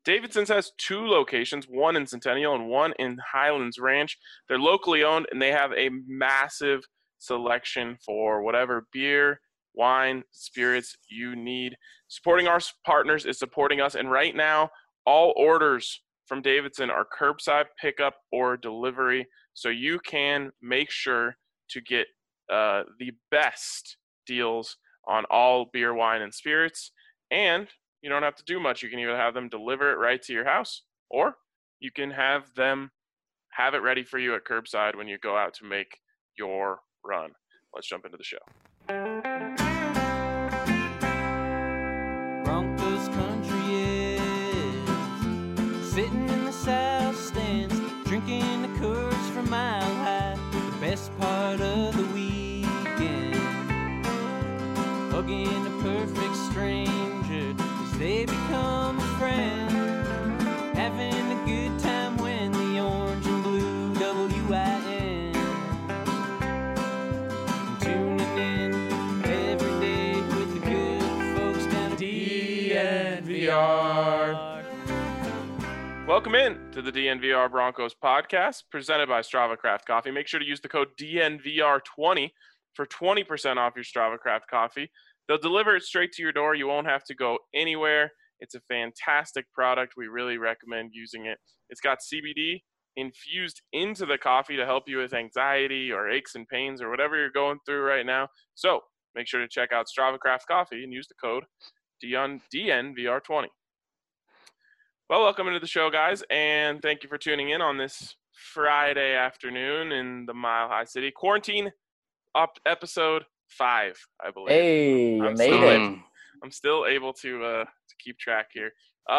Davidson's has 2 locations, one in Centennial and one in Highlands Ranch. They're locally owned, and they have a massive selection for whatever beer, wine, spirits you need. Supporting our partners is supporting us, and right now, all orders from Davidson are curbside pickup or delivery, so you can make sure to get the best deals on all beer, wine, and spirits. And you don't have to do much. You can either have them deliver it right to your house, or you can have them have it ready for you at curbside when you go out to make your run. Let's jump into the show. Broncos country is sitting in the south stands, drinking the Coors from Mile High. The best part of the weekend, hugging a perfect stranger as they become a friend, having a good time when the orange and blue WIN, tuning in every day with the good folks down at DNVR. Welcome in to the DNVR Broncos podcast, presented by Strava Craft Coffee. Make sure to use the code DNVR20 for 20% off your Strava Craft Coffee. They'll deliver it straight to your door. You won't have to go anywhere. It's a fantastic product. We really recommend using it. It's got CBD infused into the coffee to help you with anxiety or aches and pains or whatever you're going through right now. So make sure to check out Strava Craft Coffee and use the code DNVR20. Well, welcome into the show, guys, and thank you for tuning in on this Friday afternoon in the Mile High City. Quarantine episode 5, I believe. Hey, you made it. I'm still able to keep track here.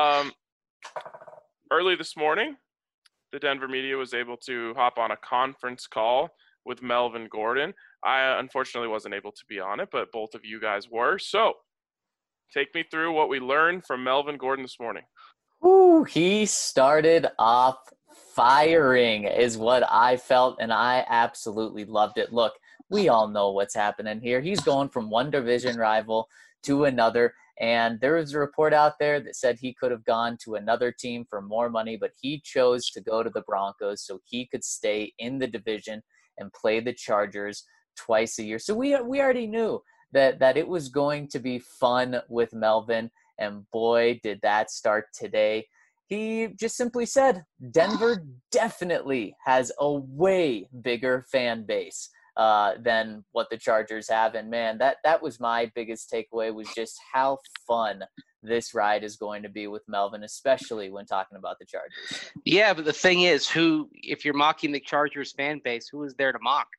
Early this morning, the Denver media was able to hop on a conference call with Melvin Gordon. I unfortunately wasn't able to be on it, but both of you guys were. So take me through what we learned from Melvin Gordon this morning. Ooh, he started off firing is what I felt, and I absolutely loved it. Look, we all know what's happening here. He's going from one division rival to another, and there was a report out there that said he could have gone to another team for more money, but he chose to go to the Broncos so he could stay in the division and play the Chargers twice a year. So we already knew that it was going to be fun with Melvin. And boy, did that start today. He just simply said, Denver definitely has a way bigger fan base than what the Chargers have. And man, that was my biggest takeaway, was just how fun this ride is going to be with Melvin, especially when talking about the Chargers. Yeah, but the thing is, if you're mocking the Chargers fan base, who is there to mock?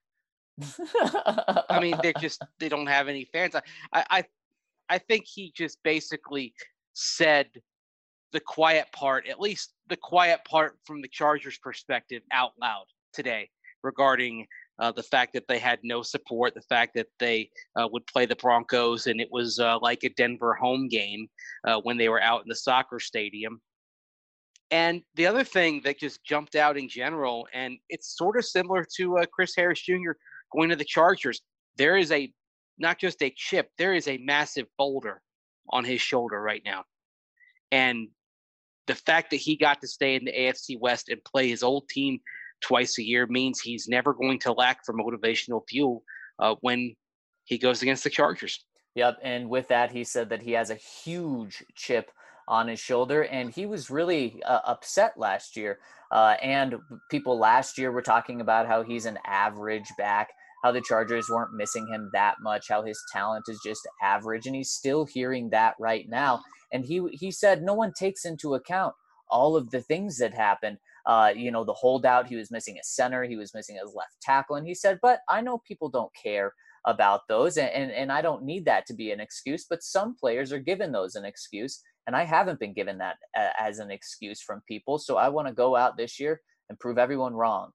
I mean, they don't have any fans. I think he just basically said the quiet part, at least the quiet part from the Chargers' perspective, out loud today regarding the fact that they had no support, the fact that they would play the Broncos, and it was like a Denver home game when they were out in the soccer stadium. And the other thing that just jumped out in general, and it's sort of similar to Chris Harris Jr. going to the Chargers, there is not just a chip, there is a massive boulder on his shoulder right now. And the fact that he got to stay in the AFC West and play his old team twice a year means he's never going to lack for motivational fuel when he goes against the Chargers. Yep, and with that, he said that he has a huge chip on his shoulder, and he was really upset last year. And people last year were talking about how he's an average back, how the Chargers weren't missing him that much, how his talent is just average, and he's still hearing that right now. And he said no one takes into account all of the things that happened. The holdout, he was missing a center, he was missing his left tackle, and he said, but I know people don't care about those, and I don't need that to be an excuse, but some players are given those an excuse, and I haven't been given that as an excuse from people, so I want to go out this year and prove everyone wrong.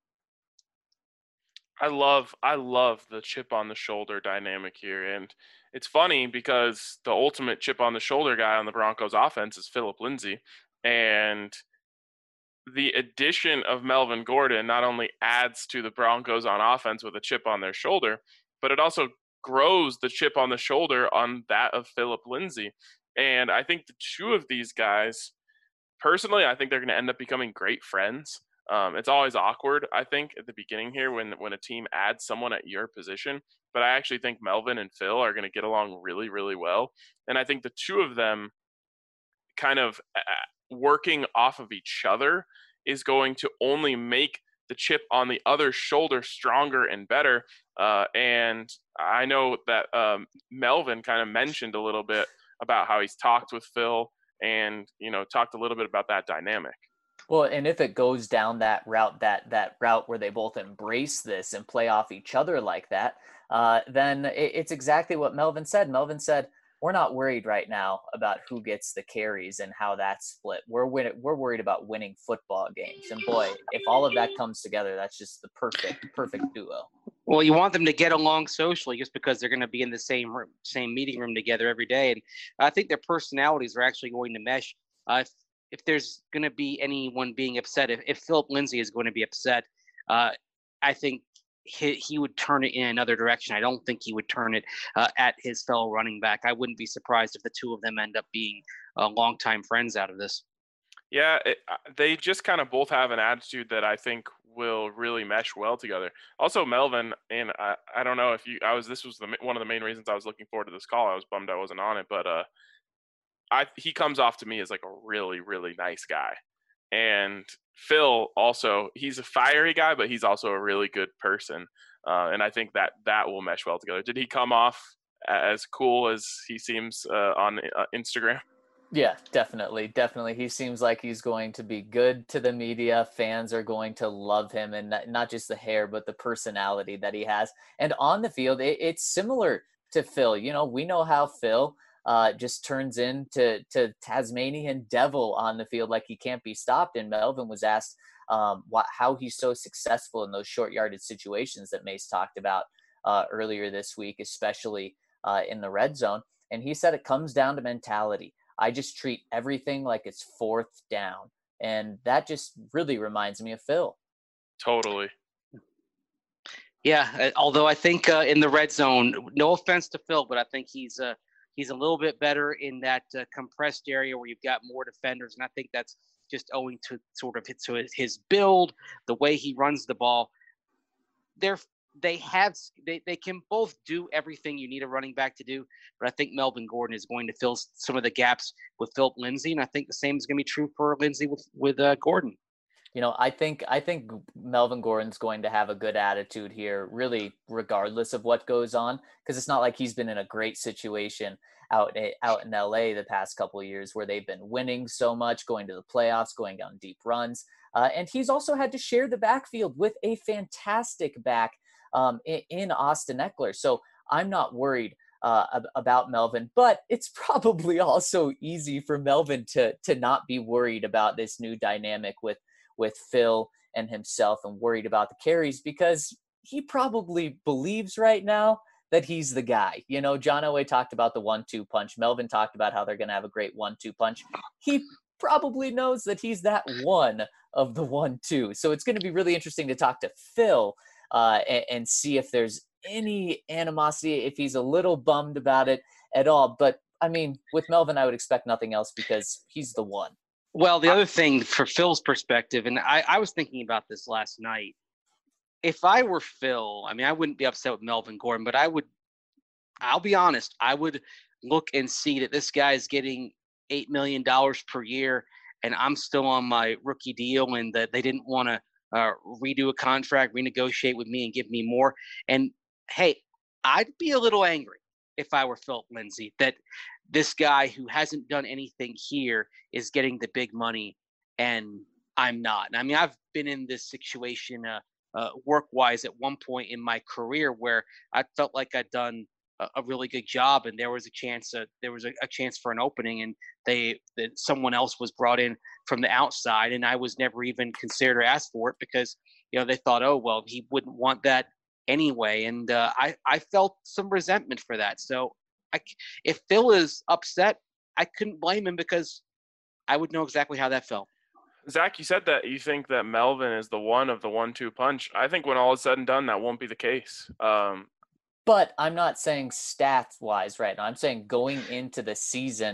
I love the chip on the shoulder dynamic here, and it's funny because the ultimate chip on the shoulder guy on the Broncos offense is Phillip Lindsay, and the addition of Melvin Gordon not only adds to the Broncos on offense with a chip on their shoulder, but it also grows the chip on the shoulder on that of Phillip Lindsay. And I think the two of these guys personally, I think they're going to end up becoming great friends. It's always awkward, I think, at the beginning here when a team adds someone at your position. But I actually think Melvin and Phil are going to get along really, really well. And I think the two of them kind of working off of each other is going to only make the chip on the other shoulder stronger and better. And I know that Melvin kind of mentioned a little bit about how he's talked with Phil and, talked a little bit about that dynamic. Well, and if it goes down that route, that route where they both embrace this and play off each other like that, then it's exactly what Melvin said. Melvin said, we're not worried right now about who gets the carries and how that's split. We're worried about winning football games. And boy, if all of that comes together, that's just the perfect duo. Well, you want them to get along socially just because they're going to be in the same meeting room together every day. And I think their personalities are actually going to mesh. If there's going to be anyone being upset, if Philip Lindsay is going to be upset, I think he would turn it in another direction. I don't think he would turn it at his fellow running back. I wouldn't be surprised if the two of them end up being longtime friends out of this. Yeah, they just kind of both have an attitude that I think will really mesh well together. Also, Melvin, and I don't know if this was one of the main reasons I was looking forward to this call. I was bummed I wasn't on it, but he comes off to me as like a really, really nice guy. And Phil also, he's a fiery guy, but he's also a really good person. And I think that will mesh well together. Did he come off as cool as he seems on Instagram? Yeah, definitely. He seems like he's going to be good to the media. Fans are going to love him, and not just the hair, but the personality that he has. And on the field, it's similar to Phil. We know how Phil just turns into Tasmanian devil on the field, like he can't be stopped. And Melvin was asked how he's so successful in those short yardage situations that Mace talked about earlier this week, especially in the red zone. And he said it comes down to mentality. I just treat everything like it's fourth down. And that just really reminds me of Phil. Totally. Yeah, although I think in the red zone, no offense to Phil, but I think he's a little bit better in that compressed area where you've got more defenders. And I think that's just owing to sort of his build, the way he runs the ball. They can both do everything you need a running back to do, but I think Melvin Gordon is going to fill some of the gaps with Philip Lindsay, and I think the same is going to be true for Lindsay with Gordon. I think Melvin Gordon's going to have a good attitude here, really, regardless of what goes on, because it's not like he's been in a great situation out in LA the past couple of years where they've been winning so much, going to the playoffs, going on deep runs, and he's also had to share the backfield with a fantastic back in Austin Ekeler. So I'm not worried about Melvin, but it's probably also easy for Melvin to not be worried about this new dynamic with Phil and himself and worried about the carries, because he probably believes right now that he's the guy. John Elway talked about the 1-2 punch. Melvin talked about how they're going to have a great 1-2 punch. He probably knows that he's that one of the 1-2. So it's going to be really interesting to talk to Phil and see if there's any animosity, if he's a little bummed about it at all. But I mean, with Melvin, I would expect nothing else because he's the one. Well, the other thing for Phil's perspective, and I was thinking about this last night. If I were Phil, I mean, I wouldn't be upset with Melvin Gordon, but I'll be honest, I would look and see that this guy is getting $8 million per year, and I'm still on my rookie deal, and that they didn't want to redo a contract, renegotiate with me and give me more. And hey, I'd be a little angry if I were Philip Lindsay that this guy who hasn't done anything here is getting the big money and I'm not. And I mean, I've been in this situation work-wise at one point in my career where I felt like I'd done a really good job, and there was a chance for an opening, and that someone else was brought in from the outside, and I was never even considered or asked for it because they thought, oh well, he wouldn't want that anyway, and I felt some resentment for that. So if Phil is upset, I couldn't blame him because I would know exactly how that felt. Zach, you said that you think that Melvin is the one of the 1-2 punch. I think when all is said and done, that won't be the case. But I'm not saying stats-wise right now. I'm saying going into the season,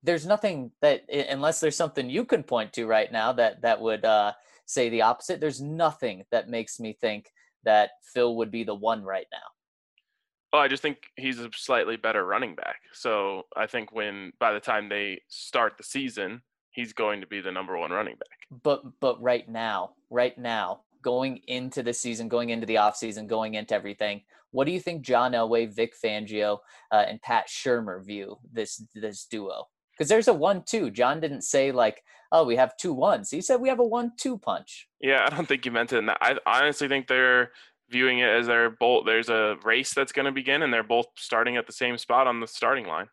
there's nothing that, unless there's something you can point to right now that would say the opposite. There's nothing that makes me think that Phil would be the one right now. Well, I just think he's a slightly better running back. So I think by the time they start the season, he's going to be the number one running back. But right now, going into the season, going into the offseason, going into everything, what do you think John Elway, Vic Fangio, and Pat Shurmur view this duo? Because there's a 1-2. John didn't say like, oh, we have 2 1s. He said we have a 1-2 punch. Yeah, I don't think you meant it in that. I honestly think they're viewing it as there's a race that's going to begin, and they're both starting at the same spot on the starting line.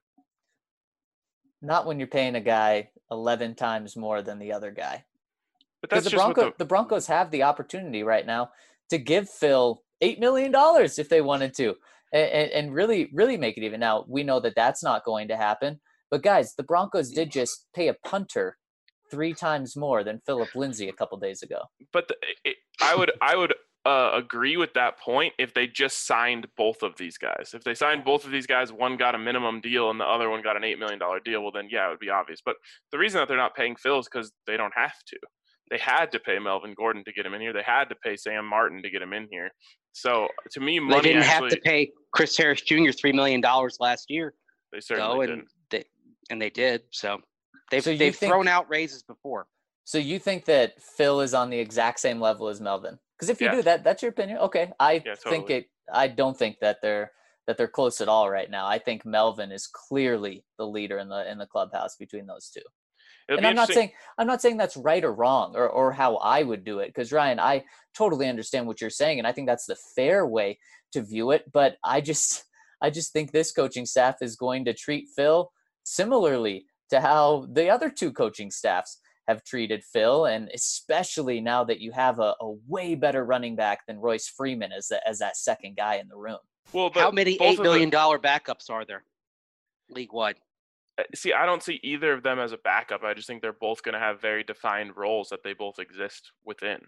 Not when you're paying a guy 11 times more than the other guy. But that's the Broncos have the opportunity right now to give Phil $8 million if they wanted to, and really, really make it even. Now, we know that that's not going to happen. But, guys, the Broncos did just pay a punter 3 times more than Philip Lindsay a couple days ago. But I would agree with that point if they just signed both of these guys. If they signed both of these guys, one got a minimum deal and the other one got an $8 million deal, well, then, yeah, it would be obvious. But the reason that they're not paying Phil is because they don't have to. They had to pay Melvin Gordon to get him in here. They had to pay Sam Martin to get him in here. So, to me, money they didn't have to pay Chris Harris Jr. $3 million last year. They certainly did. And they did. So they've thrown out raises before. So you think that Phil is on the exact same level as Melvin? Because if you do that, that's your opinion. Okay, I don't think that they're close at all right now. I think Melvin is clearly the leader in the clubhouse between those two. And I'm not saying that's right or wrong or how I would do it. Because Ryan, I totally understand what you're saying, and I think that's the fair way to view it. But I just think this coaching staff is going to treat Phil similarly to how the other 2 coaching staffs have treated Phil, and especially now that you have a way better running back than Royce Freeman as that second guy in the room. Well, but how many $8 million backups are there league-wide? See, I don't see either of them as a backup. I just think they're both going to have very defined roles that they both exist within.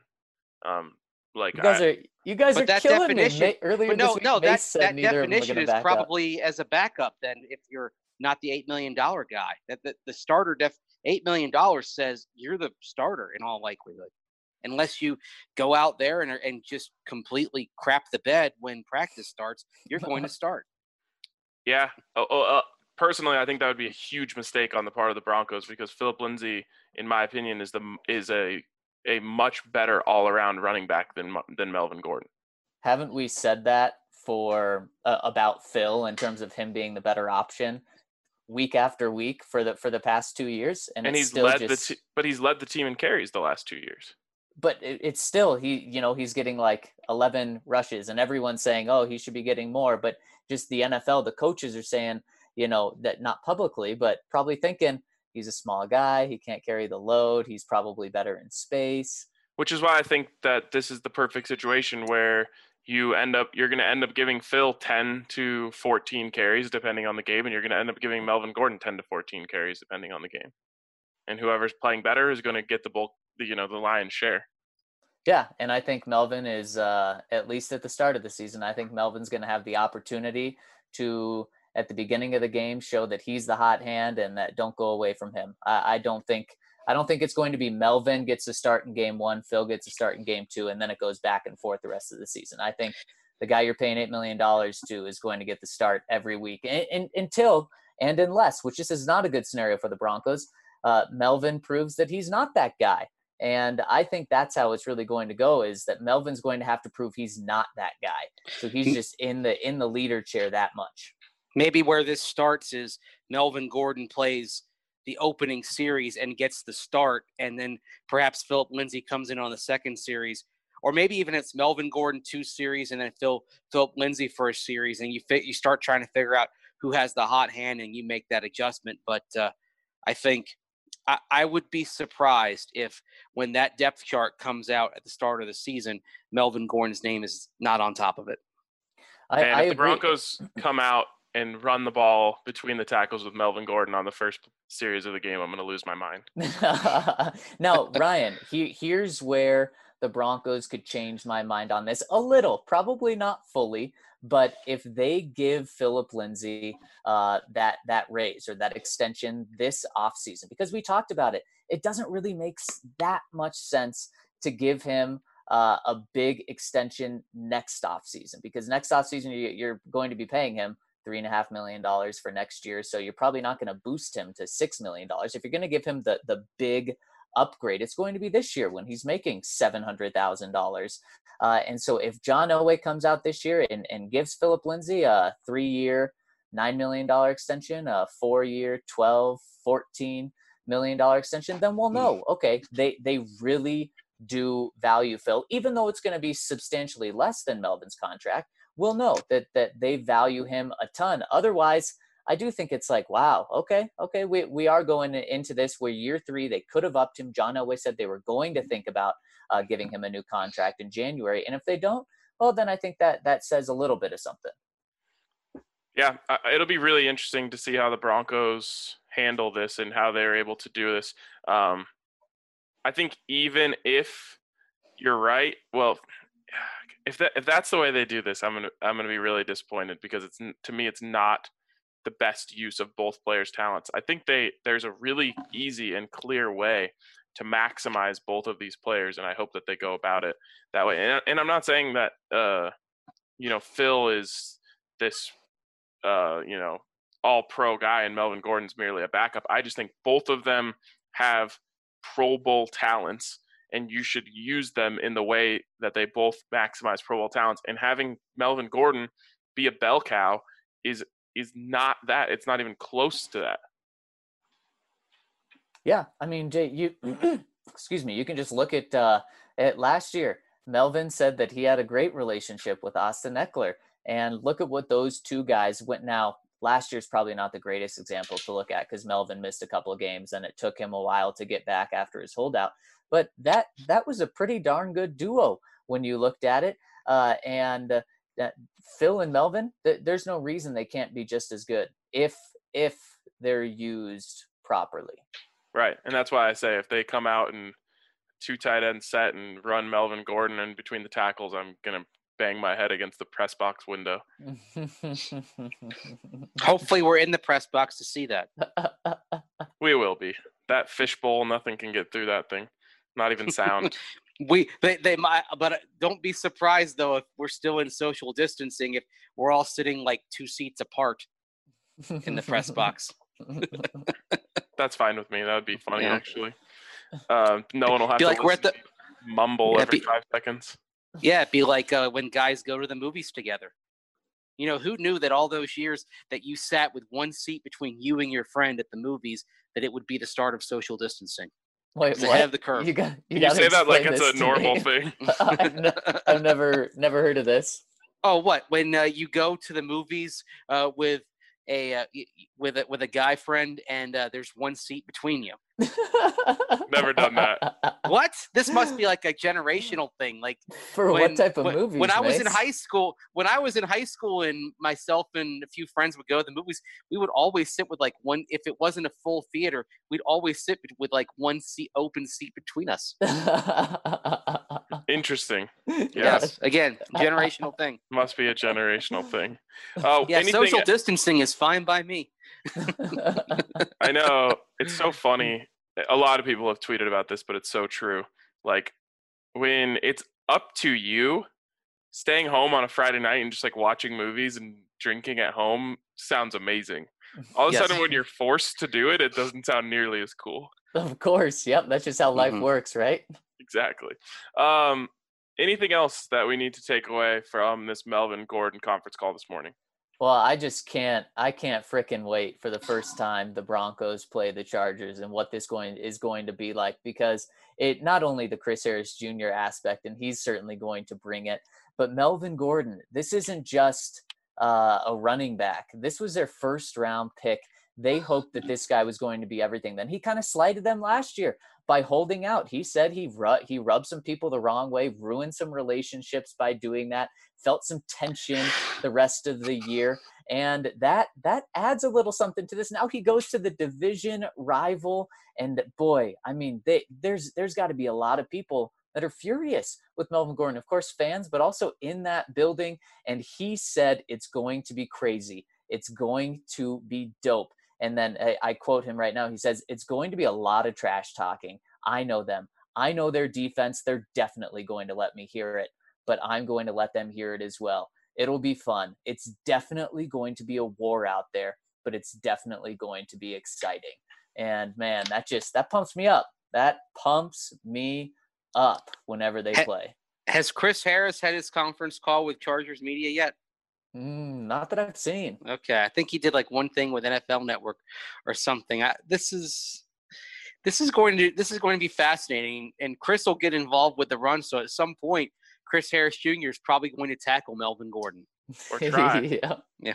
You guys are killing me. Earlier this week, Mace said neither of them were definition gonna is back probably as a backup. Then, if you're not the $8 million guy, that the starter $8 million says you're the starter in all likelihood, unless you go out there and just completely crap the bed when practice starts. You're going to start. Yeah. Personally, I think that would be a huge mistake on the part of the Broncos because Philip Lindsay, in my opinion, is a much better all-around running back than Melvin Gordon. Haven't we said that for about Phil in terms of him being the better option week after week for the past 2 years? And he's led the team in carries the last 2 years. But it's still he's getting like 11 rushes, and everyone's saying, oh, he should be getting more. But just the NFL, the coaches are saying, that not publicly, but probably thinking he's a small guy. He can't carry the load. He's probably better in space. Which is why I think that this is the perfect situation where you're going to end up giving Phil 10 to 14 carries depending on the game, and you're going to end up giving Melvin Gordon 10 to 14 carries depending on the game. And whoever's playing better is going to get the lion's share. Yeah, and I think Melvin is, at least at the start of the season, I think Melvin's going to have the opportunity to, at the beginning of the game, show that he's the hot hand and that don't go away from him. I don't think it's going to be Melvin gets a start in game 1, Phil gets a start in game 2, and then it goes back and forth the rest of the season. I think the guy you're paying $8 million to is going to get the start every week unless, which this is not a good scenario for the Broncos, Melvin proves that he's not that guy. And I think that's how it's really going to go, is that Melvin's going to have to prove he's not that guy. So he's just in the leader chair that much. Maybe where this starts is Melvin Gordon plays the opening series and gets the start, and then perhaps Philip Lindsay comes in on the second series, or maybe even it's Melvin Gordon 2 series and then Philip Lindsay for a series, and you start trying to figure out who has the hot hand and you make that adjustment. But I think I would be surprised if when that depth chart comes out at the start of the season, Melvin Gordon's name is not on top of it. If the Broncos come out and run the ball between the tackles with Melvin Gordon on the first series of the game, I'm going to lose my mind. Now, Ryan, here's where the Broncos could change my mind on this a little, probably not fully, but if they give Philip Lindsay that raise or that extension this offseason, because we talked about it, it doesn't really make that much sense to give him a big extension next offseason, because next offseason you're going to be paying him $3.5 million for next year. So you're probably not going to boost him to $6 million. If you're going to give him the big upgrade, it's going to be this year when he's making $700,000. And so if John Elway comes out this year and gives Philip Lindsay a 3-year, $9 million extension, a 4-year, $12, $14 million extension, then we'll know, okay, they really do value Phil, even though it's going to be substantially less than Melvin's contract. We'll know that they value him a ton. Otherwise, I do think it's like, wow, okay, we are going into this where year 3, they could have upped him. John Elway said they were going to think about giving him a new contract in January. And if they don't, well, then I think that says a little bit of something. Yeah, it'll be really interesting to see how the Broncos handle this and how they're able to do this. I think even if you're right, well, if that's the way they do this, I'm gonna be really disappointed, because to me it's not the best use of both players' talents. I think there's a really easy and clear way to maximize both of these players, and I hope that they go about it that way. And I'm not saying that Phil is this all pro guy and Melvin Gordon's merely a backup. I just think both of them have Pro Bowl talents, and you should use them in the way that they both maximize Pro Bowl talents. And having Melvin Gordon be a bell cow is not that. It's not even close to that. Yeah, I mean, Jay, you excuse me, you can just look at last year. Melvin said that he had a great relationship with Austin Eckler, and look at what those two guys went. Now, last year's probably not the greatest example to look at because Melvin missed a couple of games and it took him a while to get back after his holdout. But that was a pretty darn good duo when you looked at it. And Phil and Melvin, there's no reason they can't be just as good if they're used properly. Right, and that's why I say if they come out and 2 tight end set and run Melvin Gordon in between the tackles, I'm gonna bang my head against the press box window. Hopefully we're in the press box to see that. We will be. That fishbowl, nothing can get through that thing. Not even sound. They might, but don't be surprised though if we're still in social distancing, if we're all sitting like 2 seats apart in the press box. That's fine with me. That would be funny, actually. No one will have to like we're at the mumble every 5 seconds. Yeah, it'd be like when guys go to the movies together. Who knew that all those years that you sat with 1 seat between you and your friend at the movies, that it would be the start of social distancing? Wait, it's ahead of the curve. You say that like it's a normal thing. I've never heard of this. Oh, what? When you go to the movies with a guy friend and there's 1 seat between you. Never done that. What? This must be like a generational thing. Like for what type of movies? When I was in high school, and myself and a few friends would go to the movies, we would always sit with like one. If it wasn't a full theater, we'd always sit with like 1 seat, open seat between us. Interesting. Yes. Again, generational thing. Must be a generational thing. Yeah, social distancing is fine by me. I know. It's so funny. A lot of people have tweeted about this, but it's so true. Like, when it's up to you, staying home on a Friday night and just like watching movies and drinking at home sounds amazing. All of a sudden, when you're forced to do it, it doesn't sound nearly as cool. Of course. Yep. That's just how life works, right? Exactly. Anything else that we need to take away from this Melvin Gordon conference call this morning? Well, I can't frickin' wait for the first time the Broncos play the Chargers and what this is going to be like, because it not only the Chris Harris Jr. aspect, and he's certainly going to bring it, but Melvin Gordon, this isn't just a running back. This was their first round pick. They hoped that this guy was going to be everything. Then he kind of slighted them last year by holding out. He said he rubbed some people the wrong way, ruined some relationships by doing that, felt some tension the rest of the year. And that adds a little something to this. Now he goes to the division rival, and boy, I mean, there's got to be a lot of people that are furious with Melvin Gordon. Of course, fans, but also in that building. And he said it's going to be crazy. It's going to be dope. And then I quote him right now. He says, it's going to be a lot of trash talking. I know them. I know their defense. They're definitely going to let me hear it, but I'm going to let them hear it as well. It'll be fun. It's definitely going to be a war out there, but it's definitely going to be exciting. And man, that pumps me up. That pumps me up whenever they play. Has Chris Harris had his conference call with Chargers media yet? Not that I've seen. Okay, I think he did like one thing with NFL Network or something. This is going to be fascinating, and Chris will get involved with the run. So at some point, Chris Harris Jr. is probably going to tackle Melvin Gordon or try. Yeah.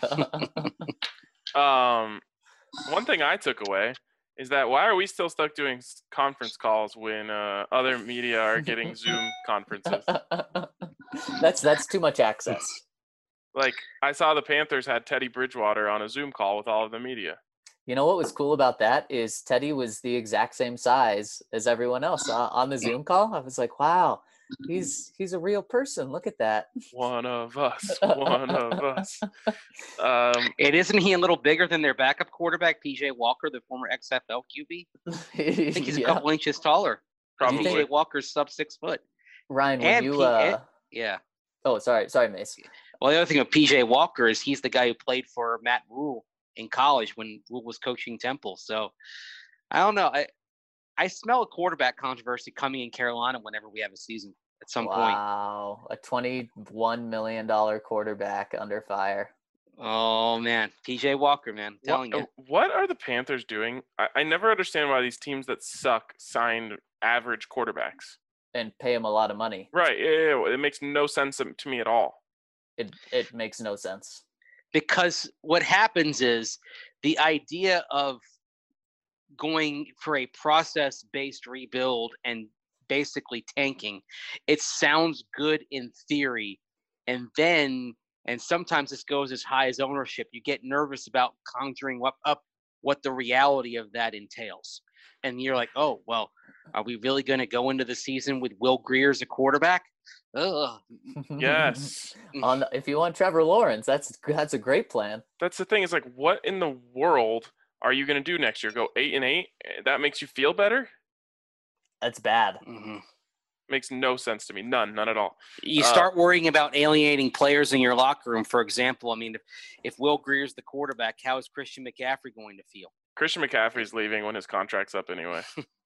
One thing I took away is that why are we still stuck doing conference calls when other media are getting Zoom conferences? That's too much access. Like, I saw the Panthers had Teddy Bridgewater on a Zoom call with all of the media. You know what was cool about that is Teddy was the exact same size as everyone else on the Zoom call. I was like, wow, he's a real person. Look at that. One of us. One of us. Isn't he a little bigger than their backup quarterback, PJ Walker, the former XFL QB? I think he's a couple inches taller. Probably. PJ Walker's sub 6 foot. Ryan, when you yeah. Oh, sorry, Mace. Well, the other thing with PJ Walker is he's the guy who played for Matt Rule in college when Rule was coaching Temple. So I don't know. I smell a quarterback controversy coming in Carolina whenever we have a season at some point. Wow, a $21 million quarterback under fire. Oh, man. PJ Walker, man. I'm telling you. What are the Panthers doing? I never understand why these teams that suck signed average quarterbacks. And pay them a lot of money. Right. Yeah, it makes no sense to me at all. It makes no sense. Because what happens is the idea of going for a process-based rebuild and basically tanking, it sounds good in theory. And sometimes this goes as high as ownership. You get nervous about conjuring up what the reality of that entails. And you're like, oh, well, are we really going to go into the season with Will Grier as a quarterback? Ugh. Yes. If you want Trevor Lawrence, that's a great plan. That's the thing. Is like, what in the world are you going to do next year? Go 8-8? That makes you feel better? That's bad. Mm-hmm. Makes no sense to me. None at all. You start worrying about alienating players in your locker room. For example, I mean, if Will Grier's the quarterback, how is Christian McCaffrey going to feel? Christian McCaffrey's leaving when his contract's up anyway.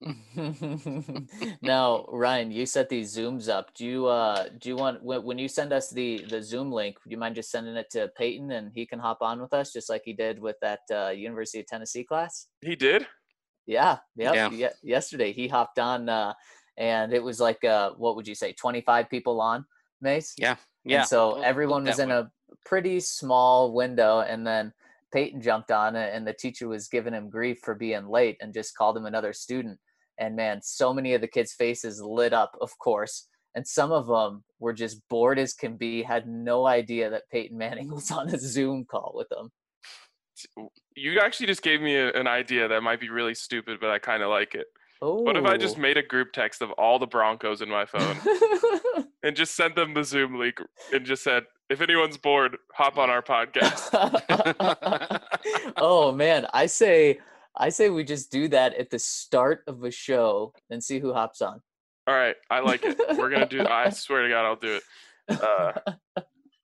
Now, Ryan, you set these Zooms up. Do you want, when you send us the Zoom link, do you mind just sending it to Peyton and he can hop on with us just like he did with that University of Tennessee class? He did? Yeah. Yesterday he hopped on and it was like, what would you say, 25 people on, Mace? Yeah. And so everyone was in a pretty small window, and then Peyton jumped on it, and the teacher was giving him grief for being late and just called him another student. And man, so many of the kids' faces lit up, of course. And some of them were just bored as can be, had no idea that Peyton Manning was on a Zoom call with them. You actually just gave me an idea that might be really stupid, but I kind of like it. Ooh. What if I just made a group text of all the Broncos in my phone and just sent them the Zoom link and just said, if anyone's bored, hop on our podcast. Oh man, I say we just do that at the start of a show and see who hops on. All right, I like it. We're gonna do. I swear to God, I'll do it.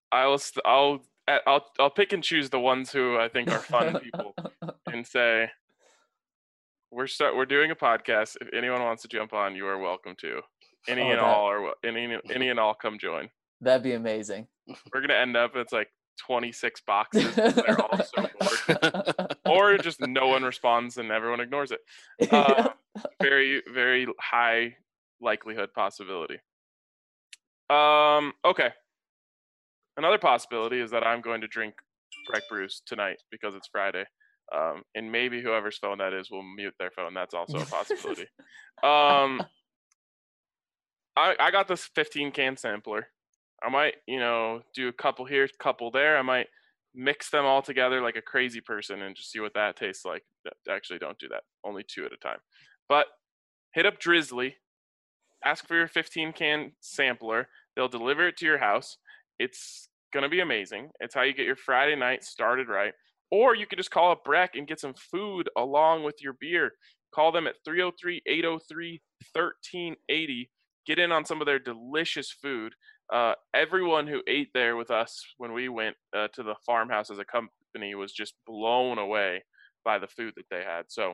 I'll pick and choose the ones who I think are fun people and say, we're doing a podcast. If anyone wants to jump on, you are welcome to. Any and all come join. That'd be amazing. We're gonna end up, it's like 26 boxes. They're all so bored. Or just no one responds and everyone ignores it. Very, very high likelihood possibility. Okay. Another possibility is that I'm going to drink Breck Brews tonight because it's Friday. And maybe whoever's phone that is will mute their phone. That's also a possibility. I got this 15-can sampler. I might, do a couple here, couple there. I might mix them all together like a crazy person and just see what that tastes like. Actually, don't do that. Only 2 at a time. But hit up Drizzly, ask for your 15-can sampler. They'll deliver it to your house. It's going to be amazing. It's how you get your Friday night started right. Or you could just call up Breck and get some food along with your beer. Call them at 303-803-1380. Get in on some of their delicious food. Everyone who ate there with us when we went to the farmhouse as a company was just blown away by the food that they had. So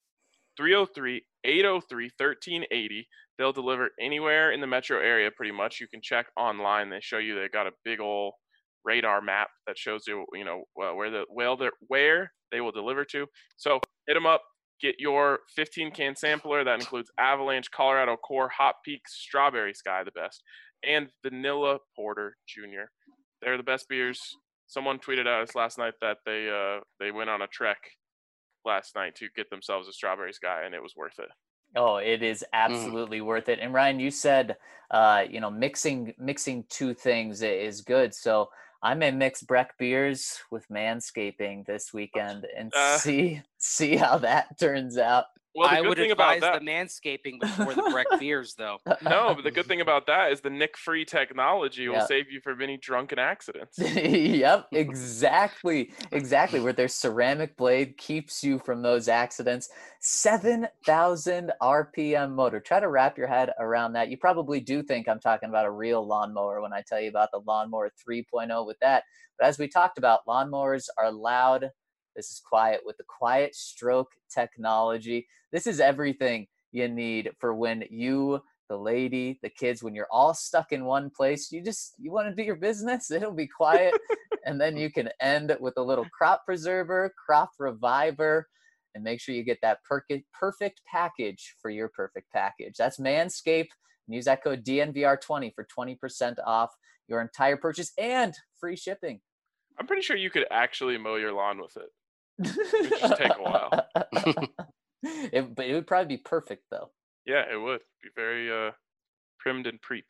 303-803-1380. They'll deliver anywhere in the metro area pretty much. You can check online. They show you they got a big old radar map that shows you, where they will deliver to. So hit them up. Get your 15-can sampler. That includes Avalanche, Colorado Core, Hot Peaks, Strawberry Sky, the best, and Vanilla Porter Jr. They're the best beers. Someone tweeted at us last night that they went on a trek last night to get themselves a Strawberry Sky, and it was worth it. Oh, it is absolutely worth it. And Ryan, you said, mixing two things is good. So I may mix Breck beers with Manscaping this weekend and see how that turns out. Well, I would advise the Manscaping before the Breck beers, though. No, but the good thing about that is the nick-free technology will save you from any drunken accidents. Yep, exactly. Where their ceramic blade keeps you from those accidents. 7,000 RPM motor. Try to wrap your head around that. You probably do think I'm talking about a real lawnmower when I tell you about the Lawnmower 3.0 with that. But as we talked about, lawnmowers are loud. This is quiet with the Quiet Stroke technology. This is everything you need for when you, the lady, the kids, when you're all stuck in one place, you want to do your business, it'll be quiet. And then you can end with a little crop preserver, crop reviver, and make sure you get that perfect package for your perfect package. That's Manscaped. And use that code DNVR20 for 20% off your entire purchase and free shipping. I'm pretty sure you could actually mow your lawn with it. It would just take a while. But it would probably be perfect, though. Yeah, it would be very primmed and preep.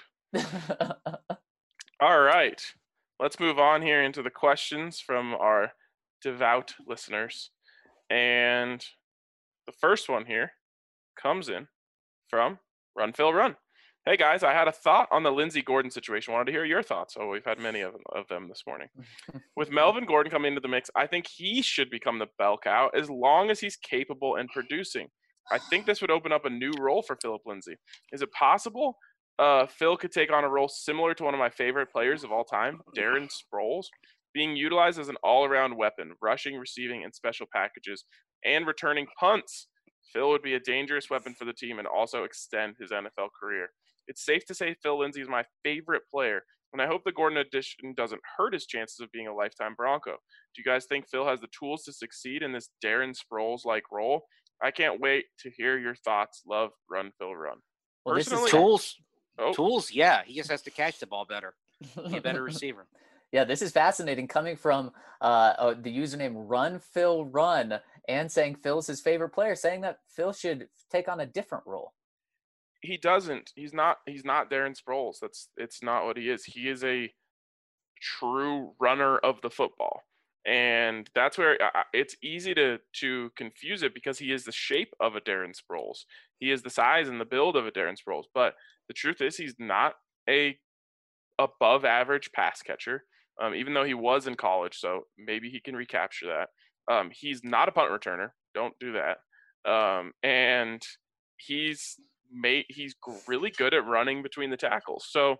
All right, let's move on here into the questions from our devout listeners. And the first one here comes in from Run Phil Run. Hey guys, I had a thought on the Lindsey Gordon situation. Wanted to hear your thoughts. Oh, we've had many of them this morning. With Melvin Gordon coming into the mix, I think he should become the bell cow as long as he's capable and producing. I think this would open up a new role for Phillip Lindsay. Is it possible Phil could take on a role similar to one of my favorite players of all time, Darren Sproles, being utilized as an all-around weapon, rushing, receiving, and special packages, and returning punts? Phil would be a dangerous weapon for the team and also extend his NFL career. It's safe to say Phil Lindsay is my favorite player, and I hope the Gordon addition doesn't hurt his chances of being a lifetime Bronco. Do you guys think Phil has the tools to succeed in this Darren Sproles-like role? I can't wait to hear your thoughts. Love, Run Phil Run. Well, Personally, tools. Yeah, he just has to catch the ball better. Be a better receiver. Yeah, this is fascinating coming from the username Run Phil Run and saying Phil's his favorite player, saying that Phil should take on a different role. He doesn't. He's not Darren Sproles. It's not what he is. He is a true runner of the football. And that's where it's easy to confuse it because he is the shape of a Darren Sproles. He is the size and the build of a Darren Sproles. But the truth is he's not a above average pass catcher, even though he was in college. So maybe he can recapture that. He's not a punt returner. Don't do that. And he's really good at running between the tackles. So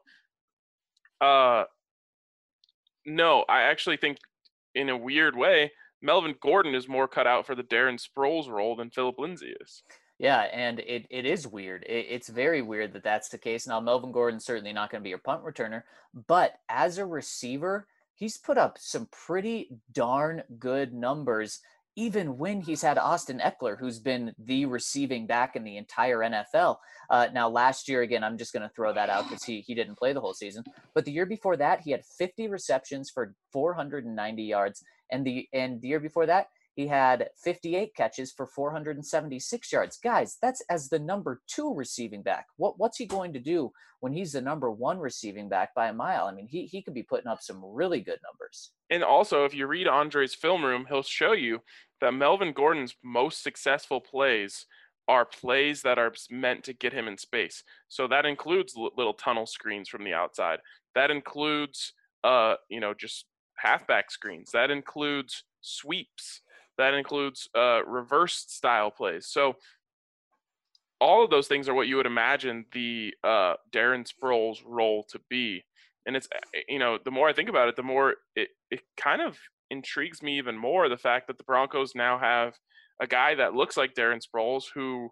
no, I actually think in a weird way, Melvin Gordon is more cut out for the Darren Sproles role than Phillip Lindsay is. Yeah, and it is weird. It's very weird that that's the case. Now, Melvin Gordon's certainly not going to be your punt returner, but as a receiver, he's put up some pretty darn good numbers, even when he's had Austin Eckler, who's been the receiving back in the entire NFL. Now, last year, again, I'm just going to throw that out because he didn't play the whole season. But the year before that, he had 50 receptions for 490 yards. And the year before that, he had 58 catches for 476 yards. Guys, that's as the number 2 receiving back. What's he going to do when he's the number 1 receiving back by a mile? I mean, he could be putting up some really good numbers. And also, if you read Andre's film room, he'll show you that Melvin Gordon's most successful plays are plays that are meant to get him in space. So that includes little tunnel screens from the outside. That includes, just halfback screens. That includes sweeps. That includes reverse style plays. So all of those things are what you would imagine the Darren Sproles role to be. And it's, the more I think about it, the more it kind of intrigues me even more, the fact that the Broncos now have a guy that looks like Darren Sproles who,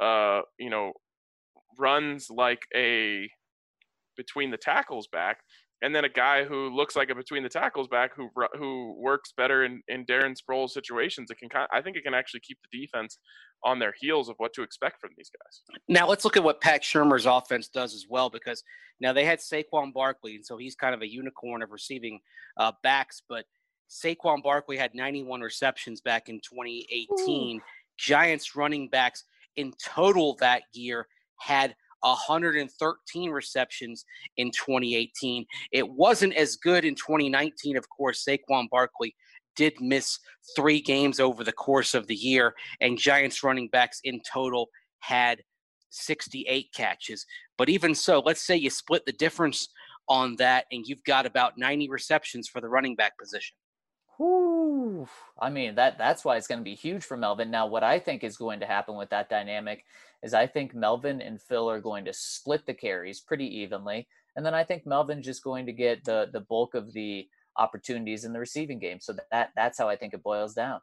runs like a between the tackles back, and then a guy who looks like a between the tackles back who works better in Darren Sproles situations. I think it can actually keep the defense on their heels of what to expect from these guys. Now let's look at what Pat Shurmur's offense does as well, because now they had Saquon Barkley, and so he's kind of a unicorn of receiving backs, but Saquon Barkley had 91 receptions back in 2018. Ooh. Giants running backs in total that year had 113 receptions in 2018. It wasn't as good in 2019. Of course, Saquon Barkley did miss 3 games over the course of the year, and Giants running backs in total had 68 catches. But even so, let's say you split the difference on that, and you've got about 90 receptions for the running back position. Whew. I mean, that's why it's going to be huge for Melvin. Now, what I think is going to happen with that dynamic is I think Melvin and Phil are going to split the carries pretty evenly. And then I think Melvin's just going to get the bulk of the opportunities in the receiving game. So that's how I think it boils down.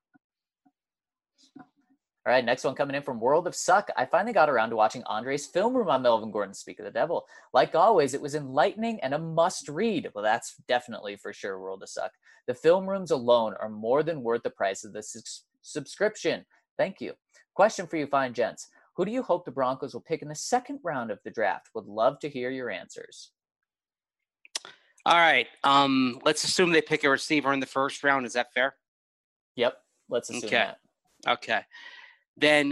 All right, next one coming in from World of Suck. I finally got around to watching Andre's film room on Melvin Gordon, Speak of the Devil. Like always, it was enlightening and a must read. Well, that's definitely for sure, World of Suck. The film rooms alone are more than worth the price of the subscription. Thank you. Question for you fine gents. Who do you hope the Broncos will pick in the second round of the draft? Would love to hear your answers. All right. Let's assume they pick a receiver in the first round. Is that fair? Yep. Let's assume that. Okay. Then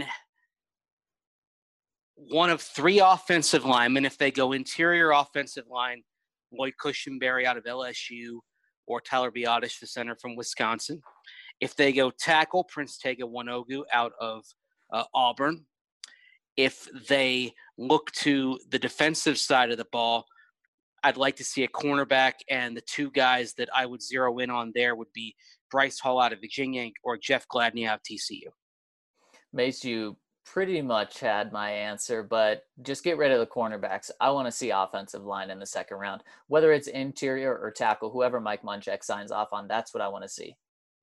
one of 3 offensive linemen, if they go interior offensive line, Lloyd Cushenberry out of LSU or Tyler Biadasz, the center from Wisconsin. If they go tackle, Prince Tega Wanogwu out of Auburn. If they look to the defensive side of the ball, I'd like to see a cornerback, and the 2 guys that I would zero in on there would be Bryce Hall out of Virginia or Jeff Gladney out of TCU. Mace, you pretty much had my answer, but just get rid of the cornerbacks. I want to see offensive line in the second round, whether it's interior or tackle, whoever Mike Munchak signs off on. That's what I want to see.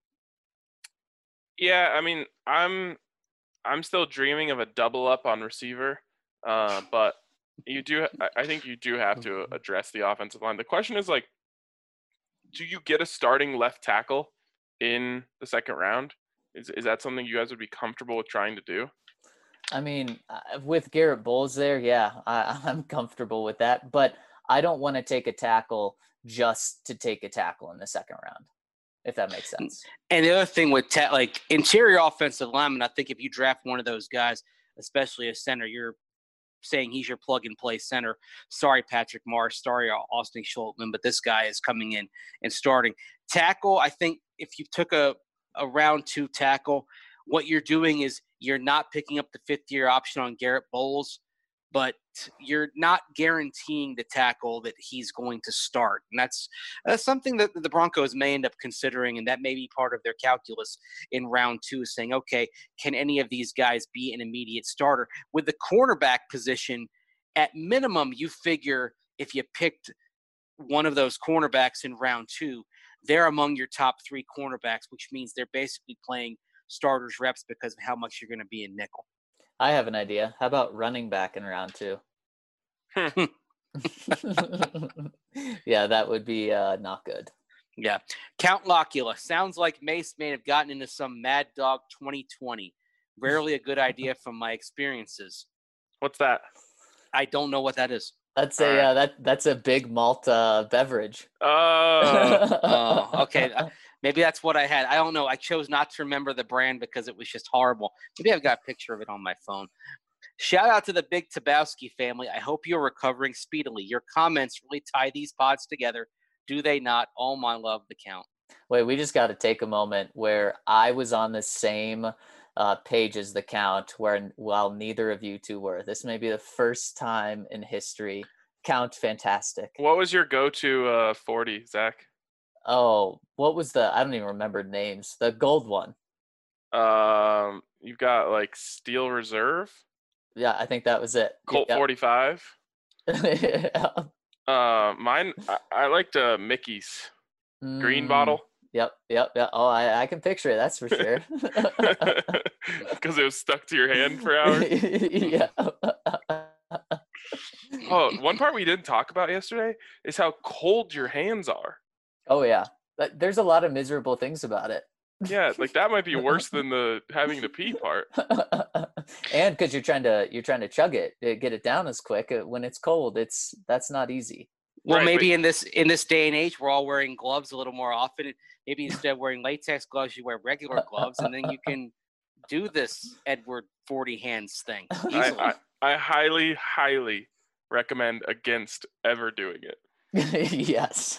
Yeah, I mean, I'm still dreaming of a double up on receiver, but I think you do have to address the offensive line. The question is, like, do you get a starting left tackle in the second round? Is that something you guys would be comfortable with trying to do? I mean, with Garrett Bowles there, yeah, I'm comfortable with that. But I don't want to take a tackle just to take a tackle in the second round, if that makes sense. And the other thing with like interior offensive lineman, I think if you draft one of those guys, especially a center, you're saying he's your plug-and-play center. Sorry, Patrick Morris. Sorry, Austin Schultman, but this guy is coming in and starting. Tackle, I think if you took a round 2 tackle, what you're doing is you're not picking up the 5th-year option on Garrett Bowles, but you're not guaranteeing the tackle that he's going to start. And that's something that the Broncos may end up considering, and that may be part of their calculus in round 2 is saying, okay, can any of these guys be an immediate starter? With the cornerback position, at minimum, you figure if you picked one of those cornerbacks in round 2, they're among your top 3 cornerbacks, which means they're basically playing starters reps because of how much you're going to be in nickel. I have an idea. How about running back in round 2? Yeah, that would be not good. Yeah. Count Locula. Sounds like Mace may have gotten into some Mad Dog 2020. Rarely a good idea from my experiences. What's that? I don't know what that is. That's that's a big malt beverage. Oh, okay. Maybe that's what I had. I don't know. I chose not to remember the brand because it was just horrible. Maybe I've got a picture of it on my phone. Shout out to the Big Tabowski family. I hope you're recovering speedily. Your comments really tie these pods together. Do they not? All my love, the count. Wait, we just got to take a moment where I was on the same pages the count while neither of you two were. This may be the first time in history. Count fantastic. What was your go-to 40, Zach? Oh, what was I don't even remember names. The gold one. You've got like Steel Reserve, Yeah, I think that was it. Colt Yep. 45. Yeah. Mine, I liked Mickey's green Mm, bottle Yep. Oh, I can picture it. That's for sure. because it was stuck to your hand for hours. Yeah. Oh, one part we didn't talk about yesterday is how cold your hands are. Oh yeah. There's a lot of miserable things about it. Yeah, like that might be worse than the having to pee part. And because you're trying to chug it, get it down as quick when it's cold. That's not easy. Well, Right, maybe in this day and age, we're all wearing gloves a little more often. Maybe instead of wearing latex gloves, you wear regular gloves, and then you can do this Edward 40 hands thing easily. I highly, highly recommend against ever doing it. Yes.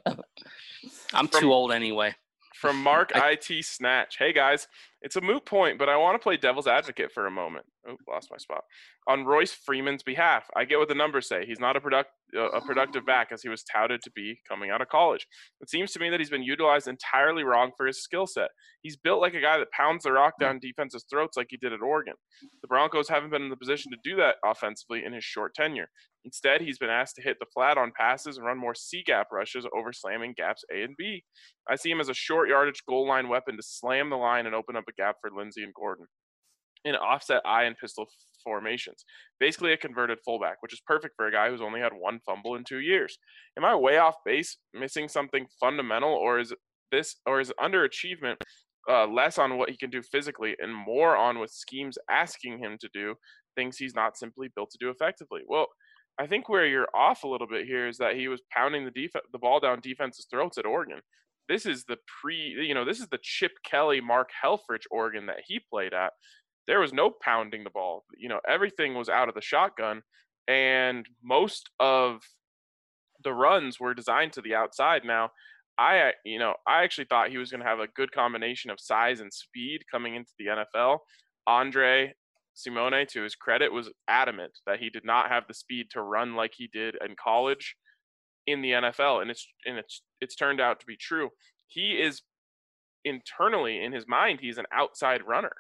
I'm too old anyway. From Mark IT Snatch. Hey guys, it's a moot point, but I want to play devil's advocate for a moment. Oh, lost my spot. On Royce Freeman's behalf, I get what the numbers say. He's not a productive back as he was touted to be coming out of college. It seems to me that he's been utilized entirely wrong for his skill set. He's built like a guy that pounds the rock down defenses' throats like he did at Oregon. The Broncos haven't been in the position to do that offensively in his short tenure. Instead, he's been asked to hit the flat on passes and run more C-gap rushes over slamming gaps A and B. I see him as a short yardage goal line weapon to slam the line and open up a gap for Lindsey and Gordon in offset eye and pistol formations. Basically a converted fullback, which is perfect for a guy who's only had one fumble in 2 years. Am I way off base, missing something fundamental, or is underachievement less on what he can do physically and more on what schemes asking him to do things he's not simply built to do effectively? Well, I think where you're off a little bit here is that he was pounding the ball down defense's throats at Oregon. This is the this is the Chip Kelly, Mark Helfrich Oregon that he played at. There was no pounding the ball. Everything was out of the shotgun, and most of the runs were designed to the outside. Now, I actually thought he was going to have a good combination of size and speed coming into the NFL. Andre Simone, to his credit, was adamant that he did not have the speed to run like he did in college in the NFL, and it's turned out to be true. He is internally in his mind, he's an outside runner,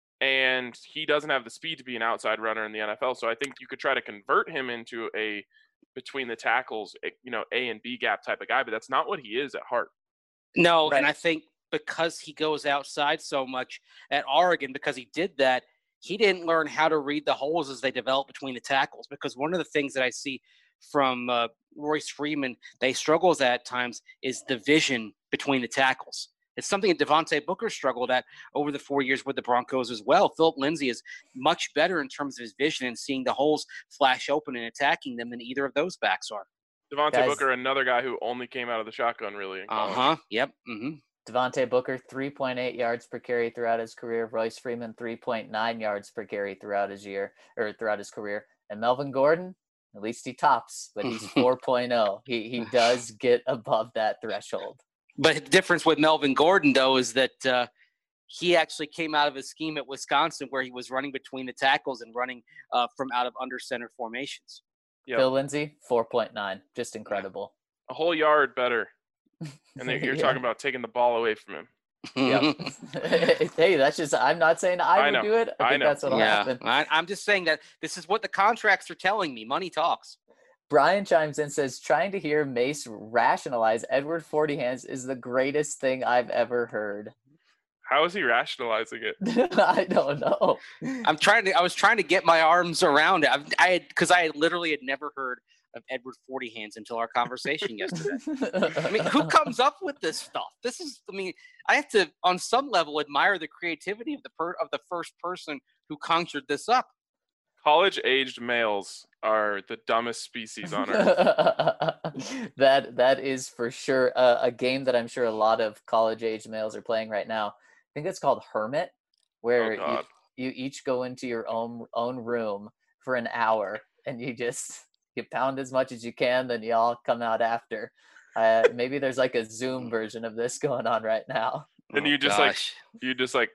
and he doesn't have the speed to be an outside runner in the NFL. So I think you could try to convert him into a between the tackles, A and B gap type of guy, but that's not what he is at heart. No, Right. and I think because he goes outside so much at Oregon, because he did that, he didn't learn how to read the holes as they develop between the tackles. Because one of the things that I see from Royce Freeman that he struggles at times is the vision between the tackles. It's something that Devontae Booker struggled at over the 4 years with the Broncos as well. Philip Lindsay is much better in terms of his vision and seeing the holes flash open and attacking them than either of those backs are. Devontae Booker, another guy who only came out of the shotgun really in college. Yep. Devontae Booker, 3.8 yards per carry throughout his career. Royce Freeman, 3.9 yards per carry throughout his career. And Melvin Gordon, at least he tops, but he's 4.0. He does get above that threshold. But the difference with Melvin Gordon, though, is that he actually came out of a scheme at Wisconsin where he was running between the tackles and running from out of under center formations. Yep. Phil Lindsay, 4.9. Just incredible. A whole yard better. And you're talking about taking the ball away from him. Yep. Hey, that's just, I'm not saying I would do it. I think that's what'll happen. I'm just saying that this is what the contracts are telling me. Money talks. Brian chimes in, says, trying to hear Mace rationalize Edward 40 hands is the greatest thing I've ever heard. How is he rationalizing it? I don't know. I was trying to get my arms around it. Because I literally had never heard of Edward 40 hands until our conversation yesterday. I mean, who comes up with this stuff? I have to, on some level, admire the creativity of the first person who conjured this up. College-aged males are the dumbest species on earth. That is for sure a game that I'm sure a lot of college-aged males are playing right now. I think it's called Hermit, where you each go into your own room for an hour, and you pound as much as you can, then you all come out after. Maybe there's like a Zoom version of this going on right now. And you just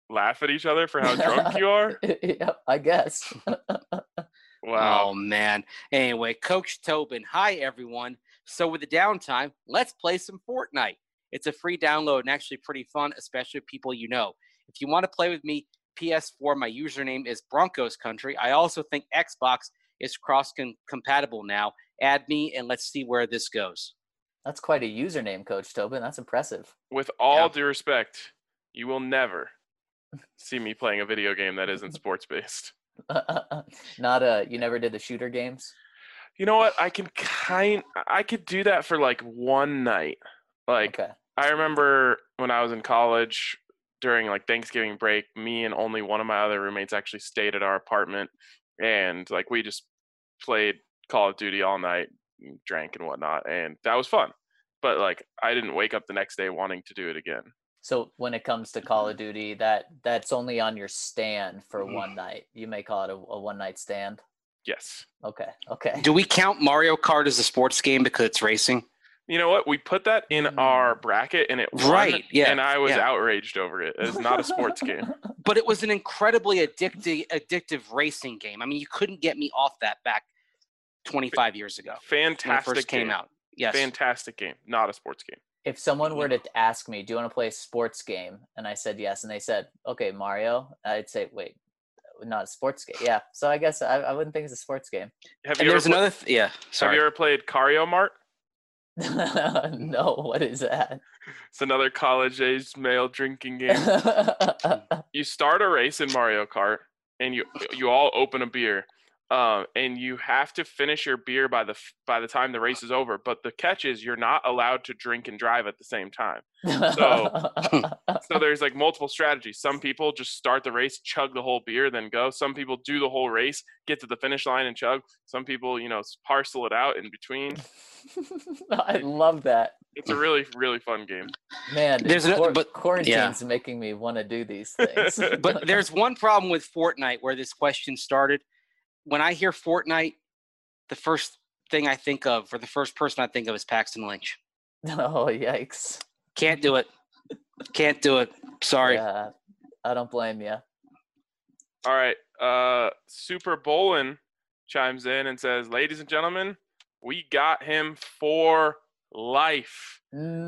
laugh at each other for how drunk you are? Yep, I guess. Wow. Oh man. Anyway, Coach Tobin. Hi everyone. So with the downtime, let's play some Fortnite. It's a free download and actually pretty fun, especially with people you know. If you want to play with me, PS4, my username is Broncos Country. I also think Xbox is cross-compatible now. Add me and let's see where this goes. That's quite a username, Coach Tobin. That's impressive. With all Yeah. due respect, you will never see me playing a video game that isn't sports based. You never did the shooter games? You know what? I could do that for like one night. Like Okay. I remember when I was in college during like Thanksgiving break, me and only one of my other roommates actually stayed at our apartment, and like we just played Call of Duty all night, drank and whatnot, and that was fun. But like I didn't wake up the next day wanting to do it again. So when it comes to Call of Duty, that's only on your stand for one night. You may call it a one night stand. Yes. Okay. Okay. Do we count Mario Kart as a sports game because it's racing? You know what? We put that in our bracket and it won, Right, yeah, and I was yeah. outraged over it. It's not a sports game. But it was an incredibly addictive racing game. I mean, you couldn't get me off that back 25 years ago when it Fantastic first came game. out. Yes. Fantastic game. Not a sports game. If someone were to ask me, do you want to play a sports game? And I said yes, and they said, okay, Mario, I'd say, wait, not a sports game. Yeah. So I guess I wouldn't think it's a sports game. Have And you there's ever another Have sorry. you ever played Cario Mart? No, what is that? It's another college-aged male drinking game. You start a race in Mario Kart, and you all open a beer, and you have to finish your beer by the time the race is over. But the catch is you're not allowed to drink and drive at the same time. So there's like multiple strategies. Some people just start the race, chug the whole beer, then go. Some people do the whole race, get to the finish line and chug. Some people, parcel it out in between. I love that. It's a really, really fun game. Man, but quarantine's making me want to do these things. But there's one problem with Fortnite where this question started. When I hear Fortnite, the first thing I think of, or the first person I think of, is Paxton Lynch. Oh, yikes. Can't do it. Can't do it. Sorry. Yeah, I don't blame you. All right. Super Bolin chimes in and says, ladies and gentlemen, we got him for life.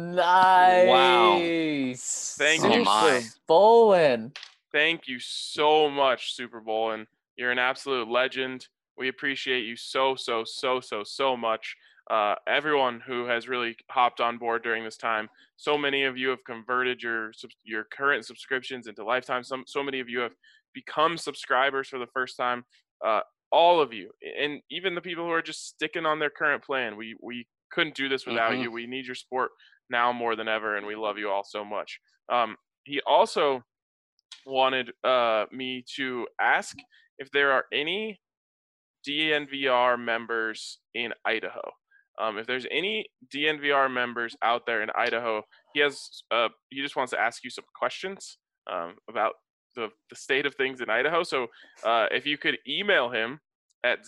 Nice. Thank you. Oh, my. Bolin. Thank you so much, Super Bolin. You're an absolute legend. We appreciate you so much. Everyone who has really hopped on board during this time. So many of you have converted your current subscriptions into lifetime. So many of you have become subscribers for the first time. All of you, and even the people who are just sticking on their current plan. We couldn't do this without you. We need your support now more than ever, and we love you all so much. He also wanted me to ask if there are any DNVR members in Idaho. If there's any DNVR members out there in Idaho, he just wants to ask you some questions about the state of things in Idaho. So if you could email him at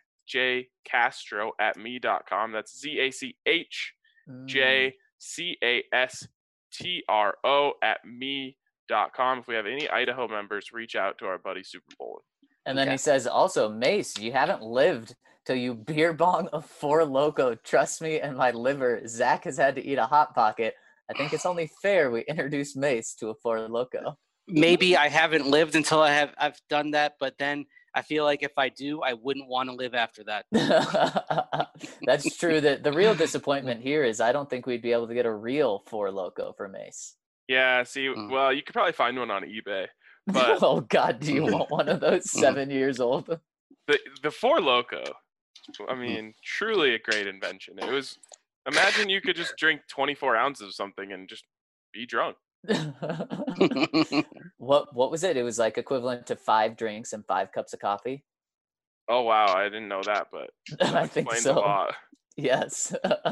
zachjcastro@me.com. That's ZachJCastro@me.com. If we have any Idaho members, reach out to our buddy Super Bowl. And then he says, also, Mace, you haven't lived till you beer bong a Four Loko. Trust me and my liver. Zach has had to eat a Hot Pocket. I think it's only fair we introduce Mace to a Four Loko. Maybe I haven't lived until I've done that, but then I feel like if I do, I wouldn't want to live after that. That's true. The real disappointment here is I don't think we'd be able to get a real Four Loko for Mace. Yeah, see, well, you could probably find one on eBay. But oh God, do you want one of those 7 years old? The Four Loko, I mean, truly a great invention. It was, imagine you could just drink 24 ounces of something and just be drunk. What was it? It was like equivalent to 5 drinks and 5 cups of coffee. Oh wow, I didn't know that, but I think explains so. a lot. Yes.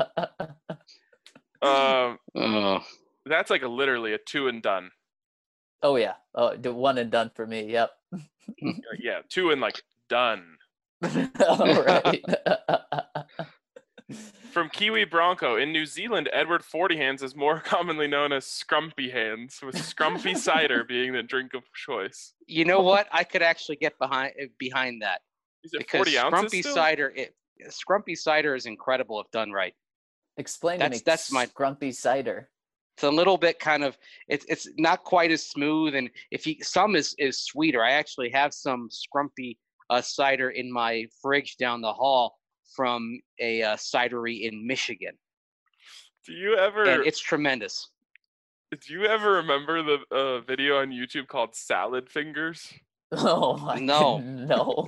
That's like literally a 2 and done. Oh yeah. Oh, the 1 and done for me. Yep. Yeah, 2 and like done. All right. From Kiwi Bronco. In New Zealand, Edward 40 Hands is more commonly known as Scrumpy Hands, with Scrumpy cider being the drink of choice. You know what? I could actually get behind that Is it because 40 ounces still? Scrumpy cider is incredible if done right. Explain to me. That's my Scrumpy cider. It's a little bit kind of it's not quite as smooth, and some is sweeter. I actually have some Scrumpy cider in my fridge down the hall from a cidery in Michigan. Do you ever? And it's tremendous. Do you ever remember the video on YouTube called Salad Fingers? Oh my No. No.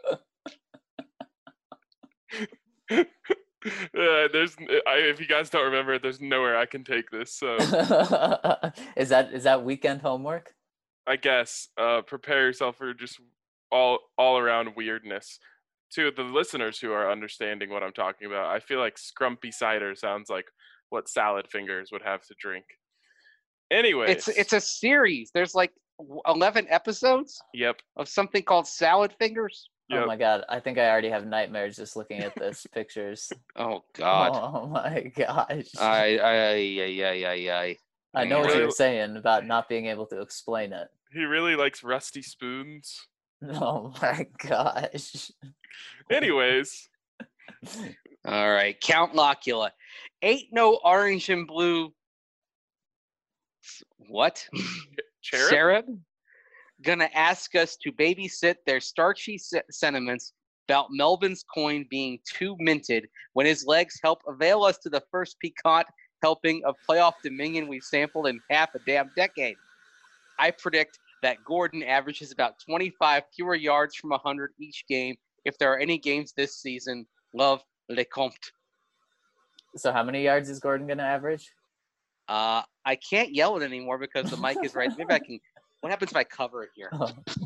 If you guys don't remember it, there's nowhere I can take this. So Is that weekend homework? I guess prepare yourself for just all around weirdness. To the listeners who are understanding what I'm talking about, I feel like Scrumpy cider sounds like what Salad Fingers would have to drink. Anyway, It's a series. There's like 11 episodes. Yep. Of something called Salad Fingers. Yep. Oh my god, I think I already have nightmares just looking at this pictures. Oh God. Oh my gosh. I I know what Really- you're saying about not being able to explain it. He really likes rusty spoons. Oh my gosh. Anyways, All right, Count Locula. Ain't no orange and blue. What? Cherub? Cherub? Gonna ask us to babysit their starchy sentiments about Melvin's coin being too minted when his legs help avail us to the first piquant helping of playoff dominion we've sampled in half a damn decade. I predict that Gordon averages about 25 fewer yards from 100 each game if there are any games this season. Love, Lecomte. So how many yards is Gordon gonna average? I can't yell it anymore because the mic is right. Maybe I can. What happens if I cover it here?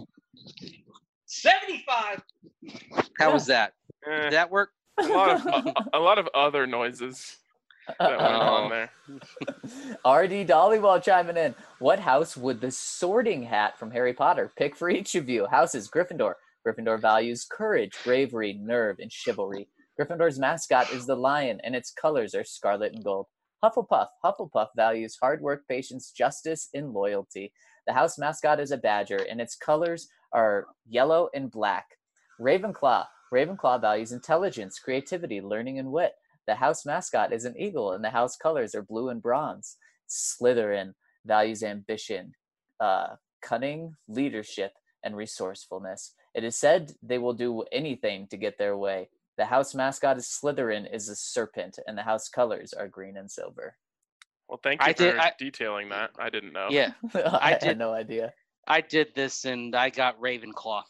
75. How was that? Eh, Did that work? a lot of other noises that went on there. RD Dollywall chiming in. What house would the sorting hat from Harry Potter pick for each of you? House is Gryffindor. Gryffindor values courage, bravery, nerve, and chivalry. Gryffindor's mascot is the lion, and its colors are scarlet and gold. Hufflepuff. Hufflepuff values hard work, patience, justice, and loyalty. The house mascot is a badger, and its colors are yellow and black. Ravenclaw. Ravenclaw values intelligence, creativity, learning, and wit. The house mascot is an eagle, and the house colors are blue and bronze. Slytherin values ambition, cunning, leadership, and resourcefulness. It is said they will do anything to get their way. The house mascot is Slytherin is a serpent, and the house colors are green and silver. Well, thank you for detailing that. I didn't know. Yeah, I had no idea. I did this and I got Ravenclaw.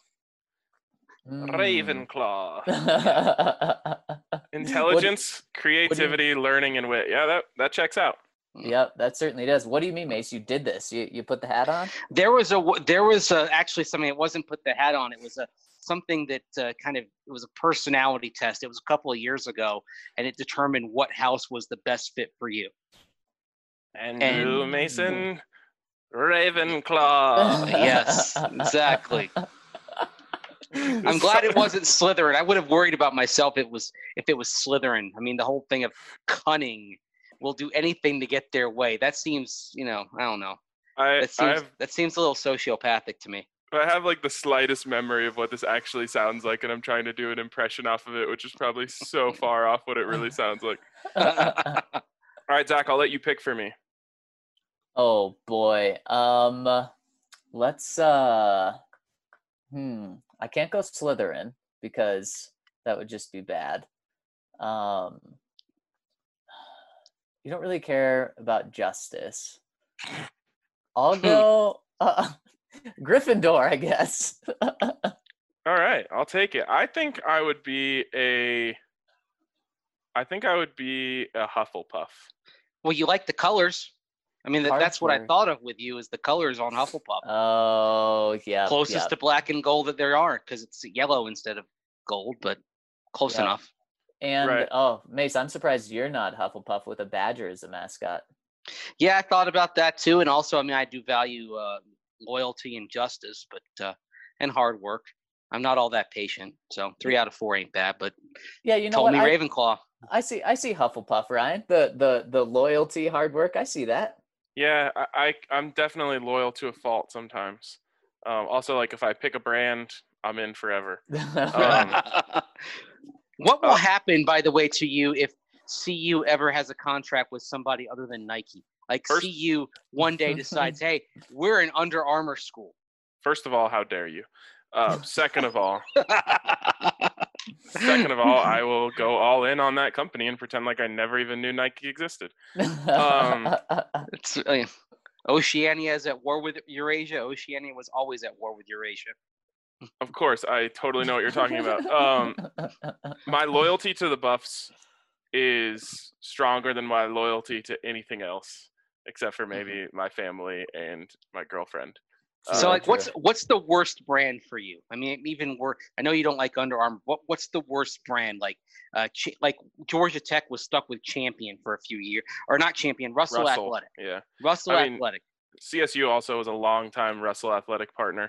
Ravenclaw. Mm. Intelligence, creativity, learning, and wit. Yeah, that checks out. Yep, that certainly does. What do you mean, Mace? You did this? You put the hat on? There was actually something. It wasn't put the hat on. It was something that it was a personality test. It was a couple of years ago, and it determined what house was the best fit for you. And you, Mason, Ravenclaw. Yes, exactly. I'm glad it wasn't Slytherin. I would have worried about myself if it was Slytherin. I mean, the whole thing of cunning, will do anything to get their way. That seems, I don't know. That seems a little sociopathic to me. I have like the slightest memory of what this actually sounds like, and I'm trying to do an impression off of it, which is probably so far off what it really sounds like. All right, Zach, I'll let you pick for me. Oh boy. Let's I can't go Slytherin because that would just be bad. You don't really care about justice. I'll go Gryffindor, I guess. All right, I'll take it. I think I would be a Hufflepuff. Well, you like the colors. I mean, that's what I thought of with you is the colors on Hufflepuff. Oh, yeah. Closest to black and gold that there are, because it's yellow instead of gold, but close enough. And, right. Mace, I'm surprised you're not Hufflepuff with a badger as a mascot. Yeah, I thought about that too. And also, I mean, I do value loyalty and justice, but and hard work. I'm not all that patient. So 3 out of 4 ain't bad, but yeah, you know told what? me Ravenclaw. I see Hufflepuff, Ryan. The loyalty, hard work. I see that. Yeah, I'm definitely loyal to a fault sometimes. Also, like if I pick a brand, I'm in forever. What will uh, happen, by the way, to you if CU ever has a contract with somebody other than Nike? Like First- CU one day decides, hey, we're an Under Armour school. First of all, how dare you? Second of all, I will go all in on that company and pretend like I never even knew Nike existed. It's, Oceania is at war with Eurasia. Oceania was always at war with Eurasia. Of course, I totally know what you're talking about. My loyalty to the Buffs is stronger than my loyalty to anything else, except for maybe my family and my girlfriend. So, like, what's the worst brand for you? I mean, even I know you don't like Under Armour. What's the worst brand? Like Georgia Tech was stuck with Champion for a few years, or not Champion, Russell Athletic. Yeah, Russell Athletic. CSU also was a long-time Russell Athletic partner.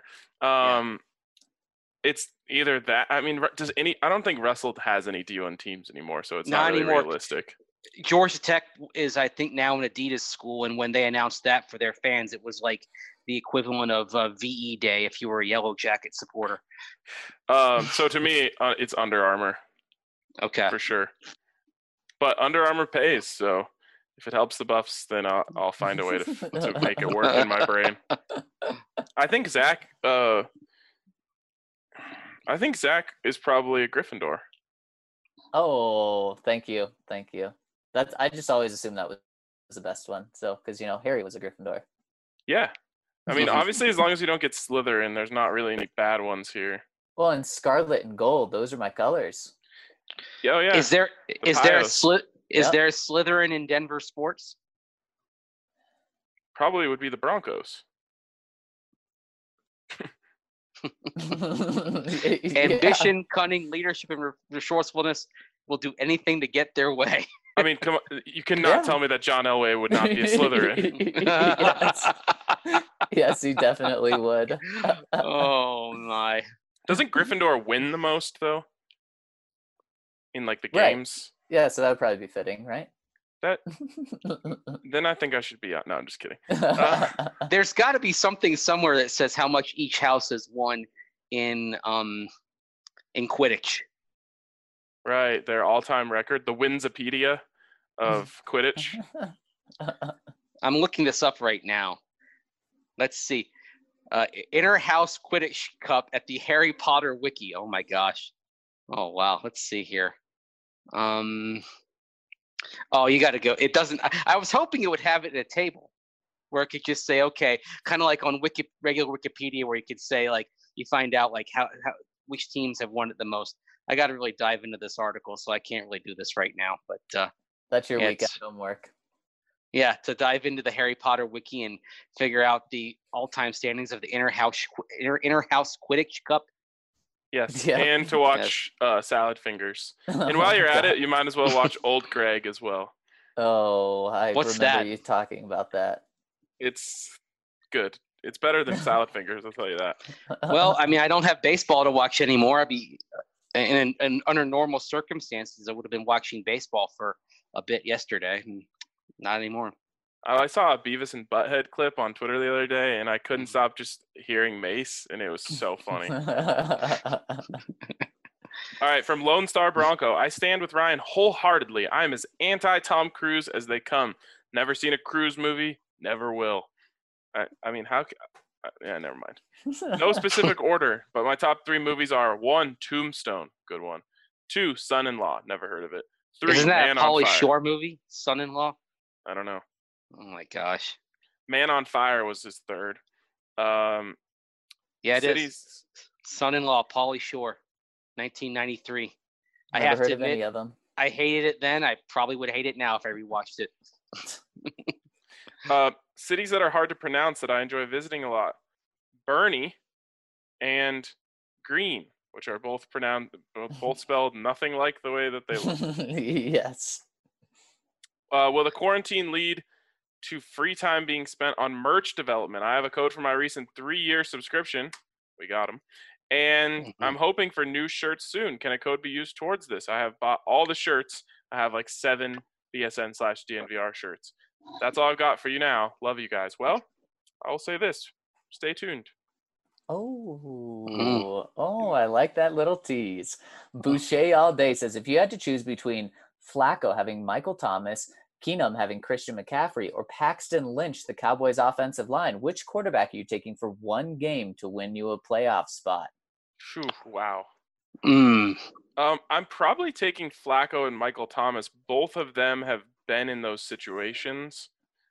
It's either that. I mean, I don't think Russell has any D1 teams anymore, so it's not really realistic. Georgia Tech is, I think, now an Adidas school, and when they announced that for their fans, it was like the equivalent of VE Day if you were a Yellow Jacket supporter. So to me, it's Under Armour. Okay. For sure. But Under Armour pays, so if it helps the Buffs, then I'll find a way to make it work in my brain. I think Zach is probably a Gryffindor. Oh, thank you. I just always assumed that was the best one. So, because Harry was a Gryffindor. Yeah, I mean, obviously, as long as you don't get Slytherin, there's not really any bad ones here. Well, and Scarlet and Gold, those are my colors. Oh yeah. Is there a Slytherin in Denver sports? Probably would be the Broncos. Ambition, cunning, leadership, and resourcefulness will do anything to get their way. I mean, come on, you cannot tell me that John Elway would not be a Slytherin. Yes, he definitely would. Oh my! Doesn't Gryffindor win the most though? In like the games. Right. Yeah, so that would probably be fitting, right? Then I think I should be out. No, I'm just kidding. There's got to be something somewhere that says how much each house has won in Quidditch. Right, their all-time record, the Winsipedia of Quidditch. I'm looking this up right now. Let's see. Inner House Quidditch Cup at the Harry Potter Wiki. Oh my gosh. Oh wow. Let's see here. Oh, you got to go. It doesn't. I was hoping it would have it at a table where it could just say, okay, kind of like on regular Wikipedia, where you could say like you find out like how which teams have won it the most. I got to really dive into this article, so I can't really do this right now. But that's your weekend homework. Yeah, to dive into the Harry Potter wiki and figure out the all-time standings of the Inner House Quidditch Cup. Yes, yeah. And to watch Salad Fingers. And while you're at it, you might as well watch Old Greg as well. Oh, I remember you talking about that. It's good. It's better than Salad Fingers, I'll tell you that. Well, I mean, I don't have baseball to watch anymore. I'd be, and under normal circumstances, I would have been watching baseball for a bit yesterday. Not anymore. I saw a Beavis and Butthead clip on Twitter the other day, and I couldn't stop just hearing Mace, and it was so funny. All right, from Lone Star Bronco, I stand with Ryan wholeheartedly. I am as anti-Tom Cruise as they come. Never seen a Cruise movie, never will. I mean, yeah, never mind. No specific order, but my top 3 movies are 1, Tombstone, good one. 2, Son-in-Law, never heard of it. 3, Isn't that Man a Pauly on Fire. Shore movie, Son-in-Law? I don't know. Oh my gosh. Man on Fire was his 3rd. Yeah, it is. Son-in-Law, Pauly Shore, 1993. I have to admit, any of them. I hated it then. I probably would hate it now if I rewatched it. Cities that are hard to pronounce that I enjoy visiting a lot: Bernie and Green, which are both spelled nothing like the way that they look. Yes. Will the quarantine lead to free time being spent on merch development? I have a code for my recent 3-year subscription. We got them. And Mhm. I'm hoping for new shirts soon. Can a code be used towards this? I have bought all the shirts. I have like 7 BSN/DNVR shirts. That's all I've got for you now. Love you guys. Well, I will say this. Stay tuned. Oh, I like that little tease. Boucher all day says, if you had to choose between Flacco having Michael Thomas, Keenum having Christian McCaffrey, or Paxton Lynch, the Cowboys' offensive line, which quarterback are you taking for one game to win you a playoff spot? Phew, wow. Mm. I'm probably taking Flacco and Michael Thomas. Both of them have been in those situations.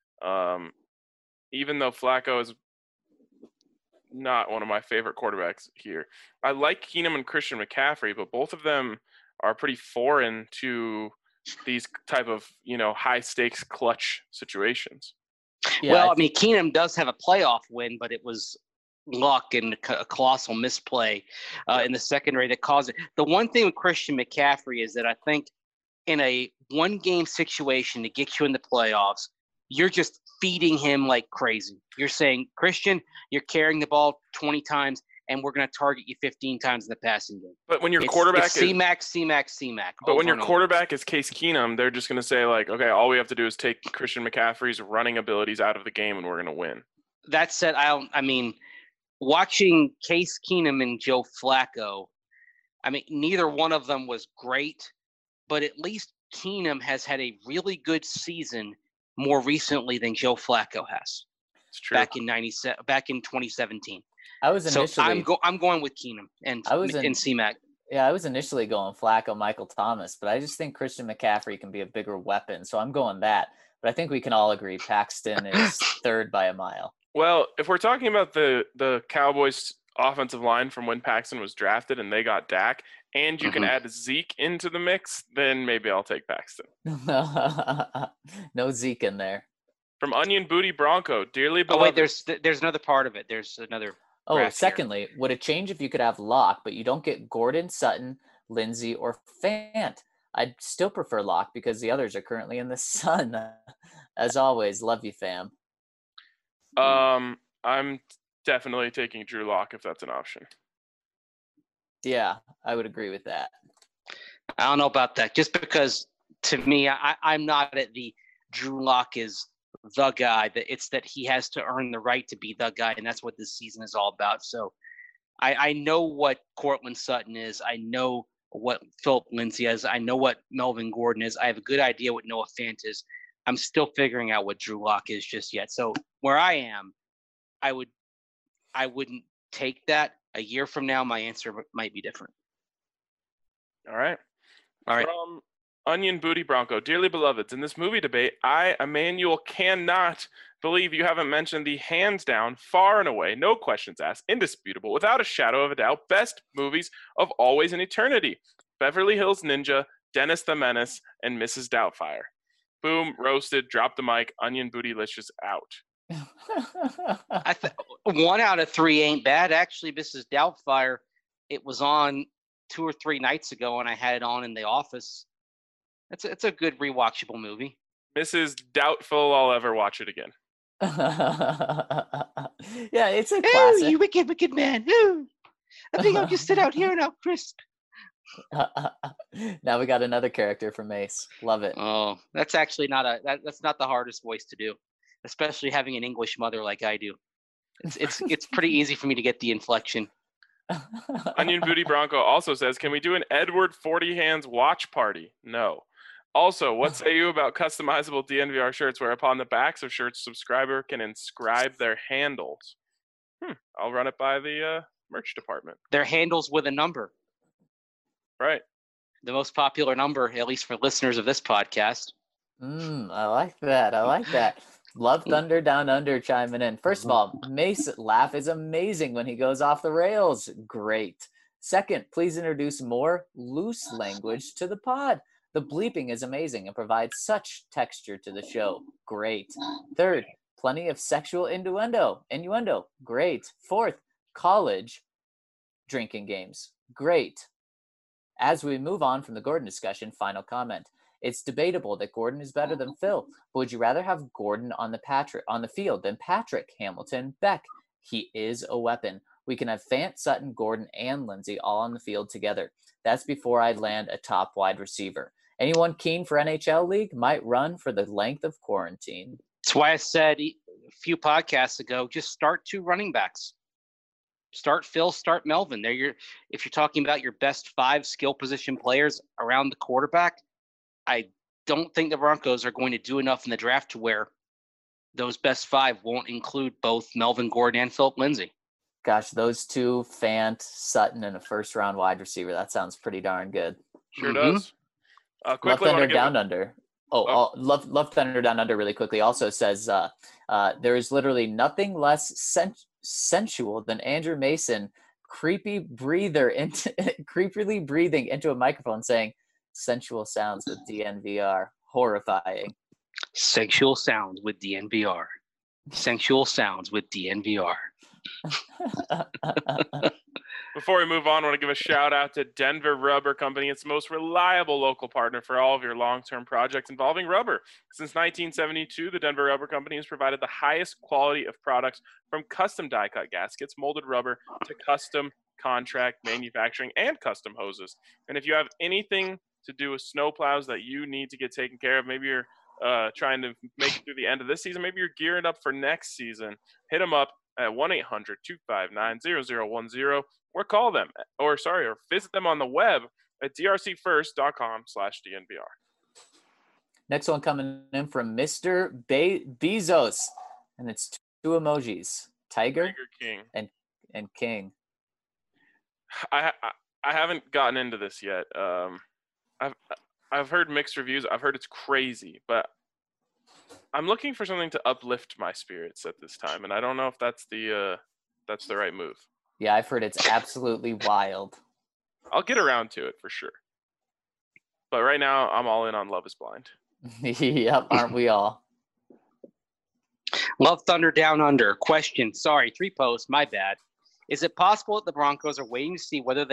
Even though Flacco is not one of my favorite quarterbacks here. I like Keenum and Christian McCaffrey, but both of them are pretty foreign to these type of, high stakes clutch situations. Yeah, Well, I mean, Keenum does have a playoff win, but it was luck and a colossal misplay in the secondary that caused it. The one thing with Christian McCaffrey is that I think in a one-game situation to get you in the playoffs, you're just feeding him like crazy. You're saying, Christian, you're carrying the ball 20 times, and we're going to target you 15 times in the passing game. But when your It's quarterback is C-Mac. But when your quarterback is Case Keenum, they're just going to say, like, okay, all we have to do is take Christian McCaffrey's running abilities out of the game, and we're going to win. That said, I mean, watching Case Keenum and Joe Flacco, I mean, neither one of them was great, but at least Keenum has had a really good season more recently than Joe Flacco has. It's true. Back in 2017. I was initially. So I'm going with Keenum and C-Mac. Yeah, I was initially going Flacco, Michael Thomas, but I just think Christian McCaffrey can be a bigger weapon, so I'm going that. But I think we can all agree Paxton is third by a mile. Well, if we're talking about the Cowboys' offensive line from when Paxton was drafted and they got Dak, and you can add Zeke into the mix, then maybe I'll take Paxton. No Zeke in there. From Onion Booty Bronco, dearly beloved. Oh, wait, there's another part of it. There's another. Oh, secondly, would it change if you could have Locke, but you don't get Gordon, Sutton, Lindsey, or Fant? I'd still prefer Locke because the others are currently in the sun. As always, love you, fam. I'm definitely taking Drew Lock if that's an option. Yeah, I would agree with that. I don't know about that. Just because, to me, I'm not at the Drew Lock is the guy. That it's that he has to earn the right to be the guy, and that's what this season is all about. So I know what Cortland Sutton is. I know what Philip Lindsay is. I know what Melvin Gordon is. I have a good idea what Noah Fant is. I'm still figuring out what Drew Lock is just yet. So where I am, I wouldn't take that. A year from now, my answer might be different. All right. From Onion Booty Bronco, dearly beloveds, in this movie debate, I, Emmanuel, cannot believe you haven't mentioned the hands down, far and away, no questions asked, indisputable, without a shadow of a doubt, best movies of always and eternity. Beverly Hills Ninja, Dennis the Menace, and Mrs. Doubtfire. Boom, roasted, drop the mic, Onion Bootylicious out. 1 out of 3 ain't bad. Actually, Mrs. Doubtfire, it was on 2 or 3 nights ago, and I had it on in the office. It's a good rewatchable movie. Mrs. Doubtful I'll ever watch it again. Yeah, it's a classic. Ooh, you wicked man. Ooh. I think I'll just sit out here and I'll crisp. Now we got another character from Ace. Love it. Oh, that's actually that's not the hardest voice to do, especially having an English mother like I do. It's pretty easy for me to get the inflection. Onion Booty Bronco also says, can we do an Edward 40 Hands watch party? No. Also, what say you about customizable DNVR shirts where upon the backs of shirts, subscriber can inscribe their handles? I'll run it by the merch department. Their handles with a number. Right. The most popular number, at least for listeners of this podcast. I like that. Love Thunder Down Under chiming in. First of all, Mace laugh is amazing when he goes off the rails. Great. Second, please introduce more loose language to the pod. The bleeping is amazing and provides such texture to the show. Great. Third, plenty of sexual innuendo. Great. Fourth, college drinking games. Great. As we move on from the Gordon discussion, final comment. It's debatable that Gordon is better than Phil, but would you rather have Gordon on the field than Patrick, Hamilton, Beck? He is a weapon. We can have Fant, Sutton, Gordon, and Lindsey all on the field together. That's before I land a top wide receiver. Anyone keen for NHL League might run for the length of quarantine. That's why I said a few podcasts ago, just start 2 running backs. Start Phil, start Melvin. If you're talking about your best 5 skill position players around the quarterback, I don't think the Broncos are going to do enough in the draft to where those best 5 won't include both Melvin Gordon and Philip Lindsay. Gosh, those 2, Fant, Sutton, and a first-round wide receiver. That sounds pretty darn good. Sure does. Love Quickly, Thunder Down Under. Love Thunder Down Under really quickly also says there is literally nothing less sensual than Andrew Mason creepily breathing into a microphone saying sensual sounds with DNVR. Horrifying. Sexual sounds with DNVR. Sensual sounds with DNVR. Before we move on, I want to give a shout out to Denver Rubber Company. It's the most reliable local partner for all of your long-term projects involving rubber. Since 1972, the Denver Rubber Company has provided the highest quality of products from custom die-cut gaskets, molded rubber, to custom contract manufacturing and custom hoses. And if you have anything to do with snow plows that you need to get taken care of, maybe you're trying to make it through the end of this season, maybe you're gearing up for next season, hit them up at 1-800-259-0010 or call them or visit them on the web at drcfirst.com/DNVR. Next one coming in from Mr. Bezos, and it's 2 emojis, Tiger King. and King. I haven't gotten into this yet. I've heard mixed reviews. I've heard it's crazy, but I'm looking for something to uplift my spirits at this time, and I don't know if that's the right move. Yeah, I've heard it's absolutely wild. I'll get around to it for sure. But right now, I'm all in on Love is Blind. Yep, aren't we all? Love Thunder Down Under. Question. Sorry, 3 posts. My bad. Is it possible that the Broncos are waiting to see whether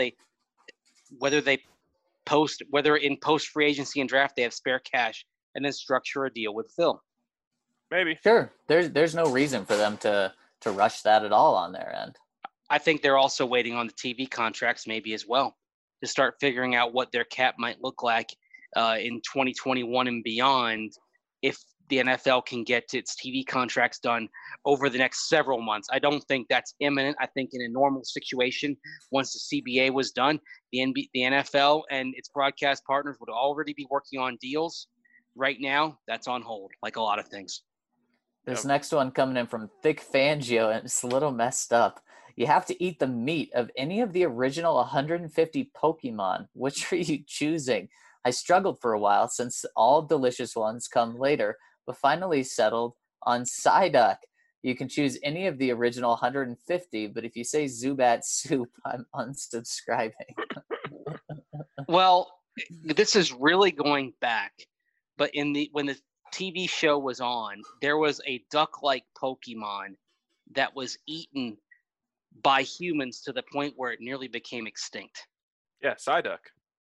in post free agency and draft they have spare cash and then structure a deal with Phil? Maybe. Sure. There's no reason for them to rush that at all on their end. I think they're also waiting on the TV contracts maybe as well to start figuring out what their cap might look like in 2021 and beyond if the NFL can get its TV contracts done over the next several months. I don't think that's imminent. I think in a normal situation, once the CBA was done, the NFL and its broadcast partners would already be working on deals. Right now, that's on hold, like a lot of things. This next one coming in from Thick Fangio, and it's a little messed up. You have to eat the meat of any of the original 150 Pokemon. Which are you choosing? I struggled for a while since all delicious ones come later, but finally settled on Psyduck. You can choose any of the original 150, but if you say Zubat Soup, I'm unsubscribing. Well, this is really going back, but when the TV show was on, there was a duck-like Pokemon that was eaten by humans to the point where it nearly became extinct. Yeah, Psyduck.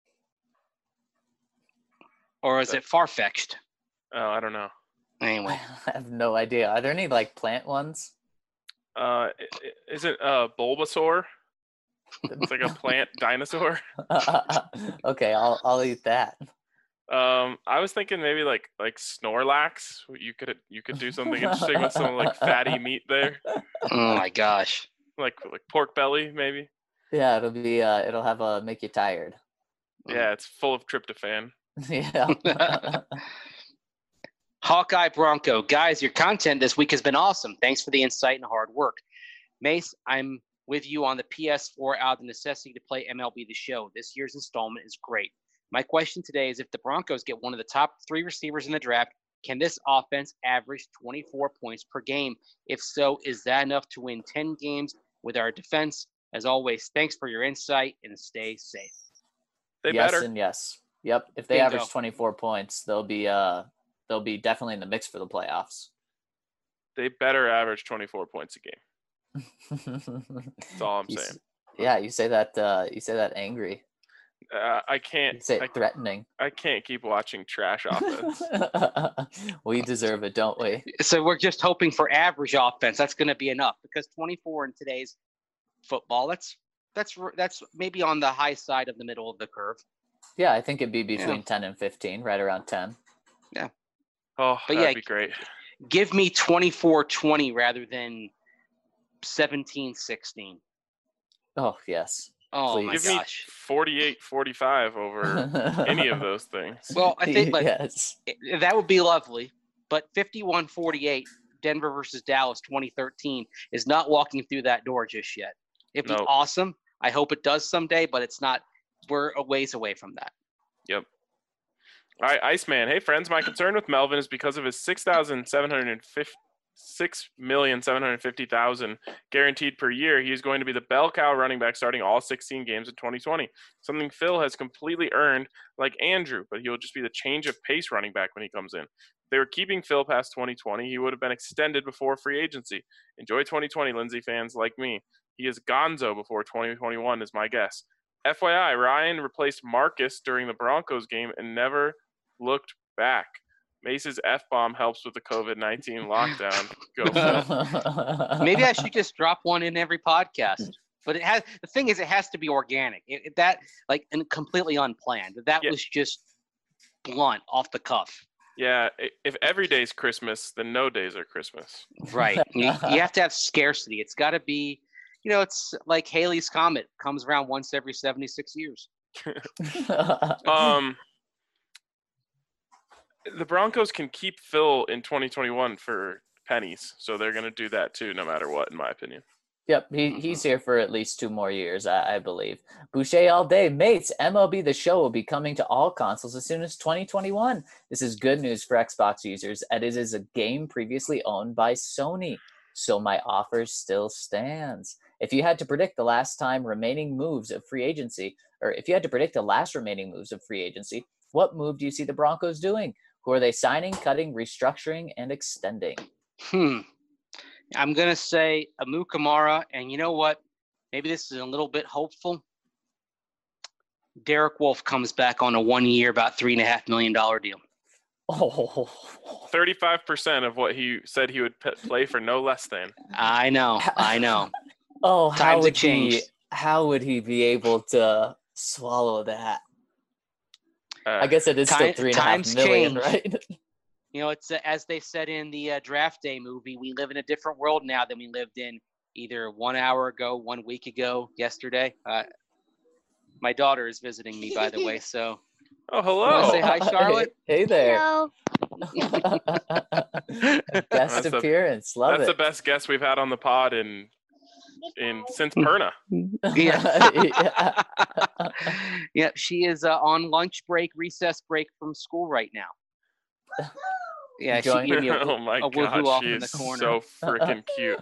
Or is it Farfetch'd? Oh, I don't know. Anyway. I have no idea. Are there any plant ones? Is it Bulbasaur? It's like a plant dinosaur. Okay, I'll eat that. I was thinking maybe like Snorlax. You could do something interesting with some fatty meat there. Oh my gosh. Like pork belly, maybe. Yeah, it'll have make you tired. Yeah, it's full of tryptophan. Yeah. Hawkeye Bronco. Guys, your content this week has been awesome. Thanks for the insight and hard work. Mace, I'm with you on the PS4 out of the necessity to play MLB The Show. This year's installment is great. My question today is if the Broncos get one of the top 3 receivers in the draft, can this offense average 24 points per game? If so, is that enough to win 10 games with our defense? As always, thanks for your insight and stay safe. Yes better. And yes. Yep. If they average 24 points, they'll be definitely in the mix for the playoffs. They better average 24 points a game. That's all I'm saying. Yeah, you say that angry. I can't. You say it threatening. I can't keep watching trash offense. We deserve it, don't we? So we're just hoping for average offense. That's going to be enough because 24 in today's football. That's maybe on the high side of the middle of the curve. Yeah, I think it'd be between 10 and 15, right around 10. Oh, But that'd be great. Give me 24-20 rather than 17-16. Oh, yes. Oh Please. my Give gosh. me 48-45 over any of those things. Well, I think yes. that would be lovely. But 51-48, Denver versus Dallas 2013 is not walking through that door just yet. It'd be awesome. I hope it does someday, but it's not. We're a ways away from that. Yep. All right, Iceman. Hey, friends. My concern with Melvin is because of his $6,750,000 guaranteed per year. He is going to be the bell cow running back starting all 16 games in 2020. Something Phil has completely earned, like Andrew, but he will just be the change of pace running back when he comes in. If they were keeping Phil past 2020, he would have been extended before free agency. Enjoy 2020, Lindsay fans like me. He is gonzo before 2021 is my guess. FYI, Ryan replaced Marcus during the Broncos game and never looked back. Mace's F-bomb helps with the COVID-19 lockdown. Go Phil. Maybe I should just drop one in every podcast. But the thing is, it has to be organic. And completely unplanned. That was just blunt, off the cuff. Yeah, if every day's Christmas, then no days are Christmas. Right. You have to have scarcity. It's got to be, it's like Halley's Comet comes around once every 76 years. The Broncos can keep Phil in 2021 for pennies, so they're going to do that too, no matter what, in my opinion. Yep, he's here for at least 2 more years, I believe. Boucher all day. Mates, MLB The Show will be coming to all consoles as soon as 2021. This is good news for Xbox users, as it is a game previously owned by Sony, so my offer still stands. If you had to predict the last remaining moves of free agency, what move do you see the Broncos doing? Who are they signing, cutting, restructuring, and extending? I'm going to say Amu Kamara, and you know what? Maybe this is a little bit hopeful. Derek Wolfe comes back on a 1-year, about $3.5 million deal. 35% of what he said he would play for, no less than. I know. Oh, how would he be able to swallow that? I guess it is still $3.5 million, right? It's as they said in the Draft Day movie, we live in a different world now than we lived in either 1 hour ago, 1 week ago, yesterday. My daughter is visiting me, by the way, so. Oh, hello. You want to say hi, Charlotte? Hey there. Hello. Guest appearance. Love it. That's the best guest we've had on the pod since Perna. Yeah. Yeah, she is on lunch break, recess break from school right now. Yeah, she gave me oh my woohoo God, off she in the is corner. so freaking cute.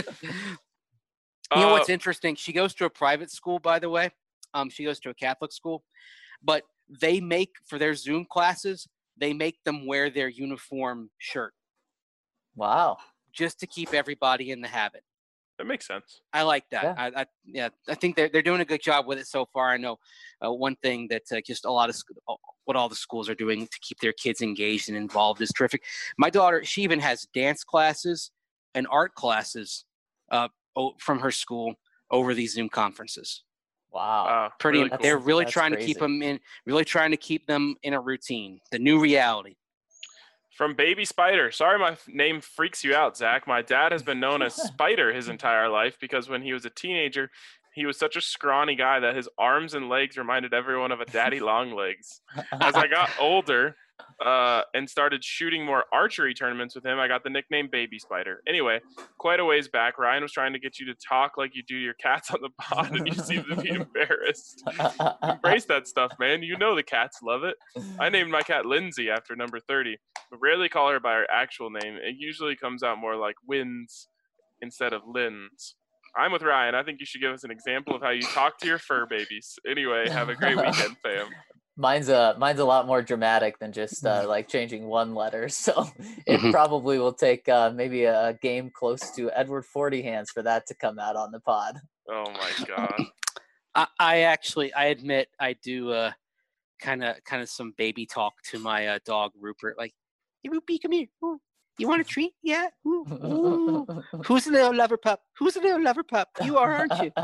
You know what's interesting? She goes to a private school, by the way. She goes to a Catholic school, but they make, for their Zoom classes, they make them wear their uniform shirt. Wow. Just to keep everybody in the habit. That makes sense. I like that. Yeah. I think they're doing a good job with it so far. I know one thing that just a lot of what all the schools are doing to keep their kids engaged and involved is terrific. My daughter, she even has dance classes and art classes from her school over these Zoom conferences. Wow. Really cool. They're really That's trying crazy. to keep them in a routine, the new reality. From Baby Spider. Sorry my name freaks you out, Zach. My dad has been known as Spider his entire life because when he was a teenager, he was such a scrawny guy that his arms and legs reminded everyone of a daddy long legs. As I got older and started shooting more archery tournaments with him, I got the nickname Baby Spider. Anyway, quite a ways back, Ryan was trying to get you to talk like you do your cats on the pod, and you seem to be embarrassed. Embrace that stuff, man. You know the cats love it. I named my cat Lindsay after number 30, but rarely call her by her actual name. It usually comes out more like Wins instead of Lins. I'm with Ryan. I think you should give us an example of how you talk to your fur babies. Anyway, have a great weekend, fam. Mine's a lot more dramatic than just like changing one letter. So it probably will take maybe a game close to Edward Forty Hands for that to come out on the pod. Oh my God. I admit I do kind of some baby talk to my dog Rupert, like, hey Rupee, come here. Ooh. You want a treat? Yeah. Ooh, ooh. Who's the little lover pup? Who's the little lover pup? You are, aren't you?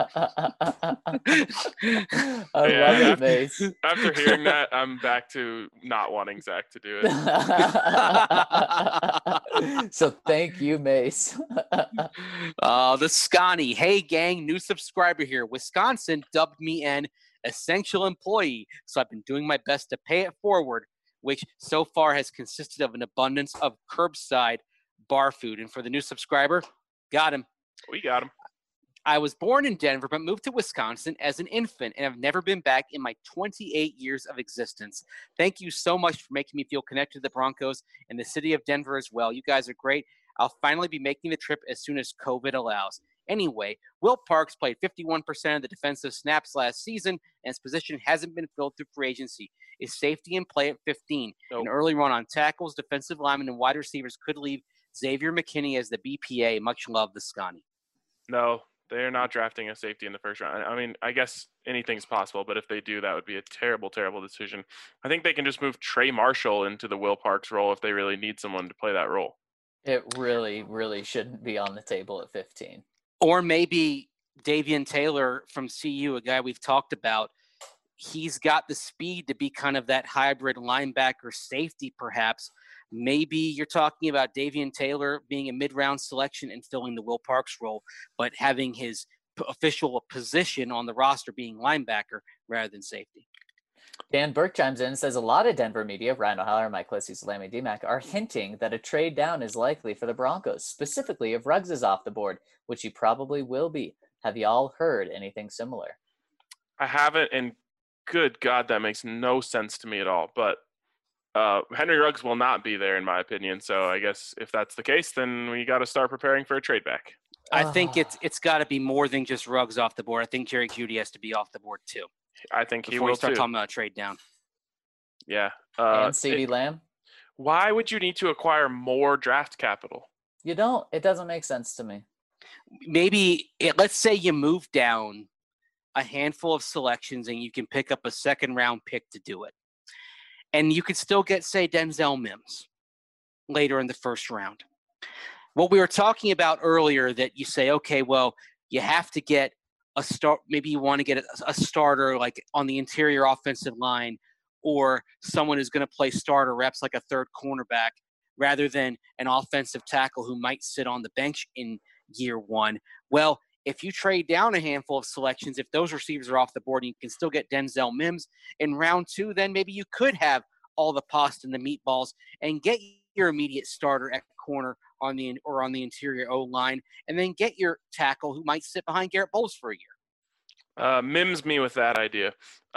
I love it, Mace. After hearing that, I'm back to not wanting Zach to do it. So thank you, Mace. The Scotty. Hey, gang, new subscriber here. Wisconsin dubbed me an essential employee, so I've been doing my best to pay it forward, which so far has consisted of an abundance of curbside bar food. And for the new subscriber, got him. We got him. I was born in Denver, but moved to Wisconsin as an infant and have never been back in my 28 years of existence. Thank you so much for making me feel connected to the Broncos and the city of Denver as well. You guys are great. I'll finally be making the trip as soon as COVID allows. Anyway, Will Parks played 51% of the defensive snaps last season, and his position hasn't been filled through free agency. Is safety in play at 15? Nope. An early run on tackles, defensive linemen, and wide receivers could leave Xavier McKinney as the BPA. Much love, the Scotty. No, they're not drafting a safety in the first round. I mean, I guess anything's possible, but if they do, that would be a terrible, terrible decision. I think they can just move Trey Marshall into the Will Parks role if they really need someone to play that role. It really, really shouldn't be on the table at 15. Or maybe Davian Taylor from CU, a guy we've talked about. He's got the speed to be kind of that hybrid linebacker safety, perhaps. Maybe you're talking about Davian Taylor being a mid-round selection and filling the Will Parks role, but having his official position on the roster being linebacker rather than safety. Dan Burke chimes in and says a lot of Denver media, Ryan O'Halloran, Mike Lissy, Salami DMAC, are hinting that a trade down is likely for the Broncos, specifically if Ruggs is off the board, which he probably will be. Have y'all heard anything similar? I haven't, and good God, that makes no sense to me at all. But Henry Ruggs will not be there, in my opinion. So I guess if that's the case, then we got to start preparing for a trade back. I think it's got to be more than just Ruggs off the board. I think Jerry Jeudy has to be off the board too. I think he before will you start too. talking about a trade down. Yeah. And CeeDee Lamb? Why would you need to acquire more draft capital? You don't. It doesn't make sense to me. Maybe let's say you move down a handful of selections and you can pick up a second-round pick to do it. And you could still get, say, Denzel Mims later in the first round. What we were talking about earlier, that you say, okay, well, you have to get a start. Maybe you want to get a starter like on the interior offensive line, or someone who's going to play starter reps like a third cornerback rather than an offensive tackle who might sit on the bench in year one. Well, if you trade down a handful of selections, if those receivers are off the board and you can still get Denzel Mims in round two, then maybe you could have all the pasta and the meatballs and get your immediate starter at corner on the interior O-line, and then get your tackle who might sit behind Garrett Bowles for a year. Mims me with that idea.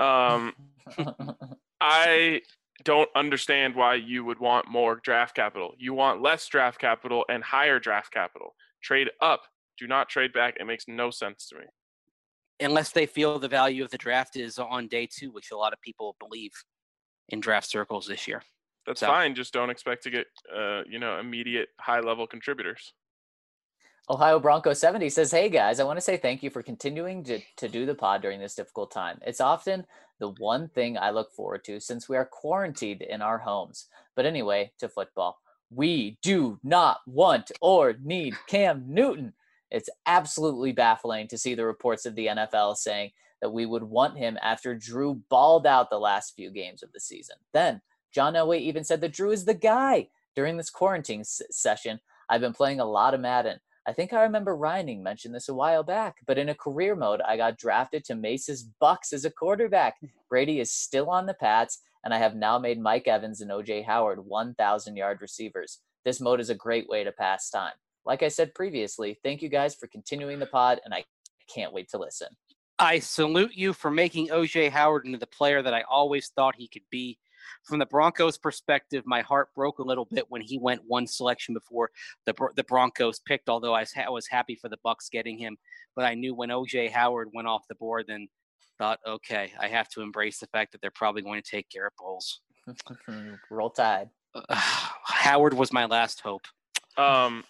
I don't understand why you would want more draft capital. You want less draft capital and higher draft capital. Trade up. Do not trade back. It makes no sense to me. Unless they feel the value of the draft is on day two, which a lot of people believe in draft circles this year. That's fine. Just don't expect to get, immediate high-level contributors. Ohio Bronco 70 says, hey guys, I want to say thank you for continuing to do the pod during this difficult time. It's often the one thing I look forward to since we are quarantined in our homes. But anyway, to football. We do not want or need Cam Newton. It's absolutely baffling to see the reports of the NFL saying that we would want him after Drew balled out the last few games of the season. Then John Elway even said that Drew is the guy. During this quarantine session, I've been playing a lot of Madden. I think I remember Reining mentioned this a while back, but in a career mode, I got drafted to Mace's Bucks as a quarterback. Brady is still on the Pats, and I have now made Mike Evans and O.J. Howard 1,000-yard receivers. This mode is a great way to pass time. Like I said previously, thank you guys for continuing the pod, and I can't wait to listen. I salute you for making O.J. Howard into the player that I always thought he could be. From the Broncos' perspective, my heart broke a little bit when he went one selection before the Broncos picked, although I was happy for the Bucks getting him. But I knew when O.J. Howard went off the board, then thought, okay, I have to embrace the fact that they're probably going to take Garrett Bowles. Roll Tide. Howard was my last hope.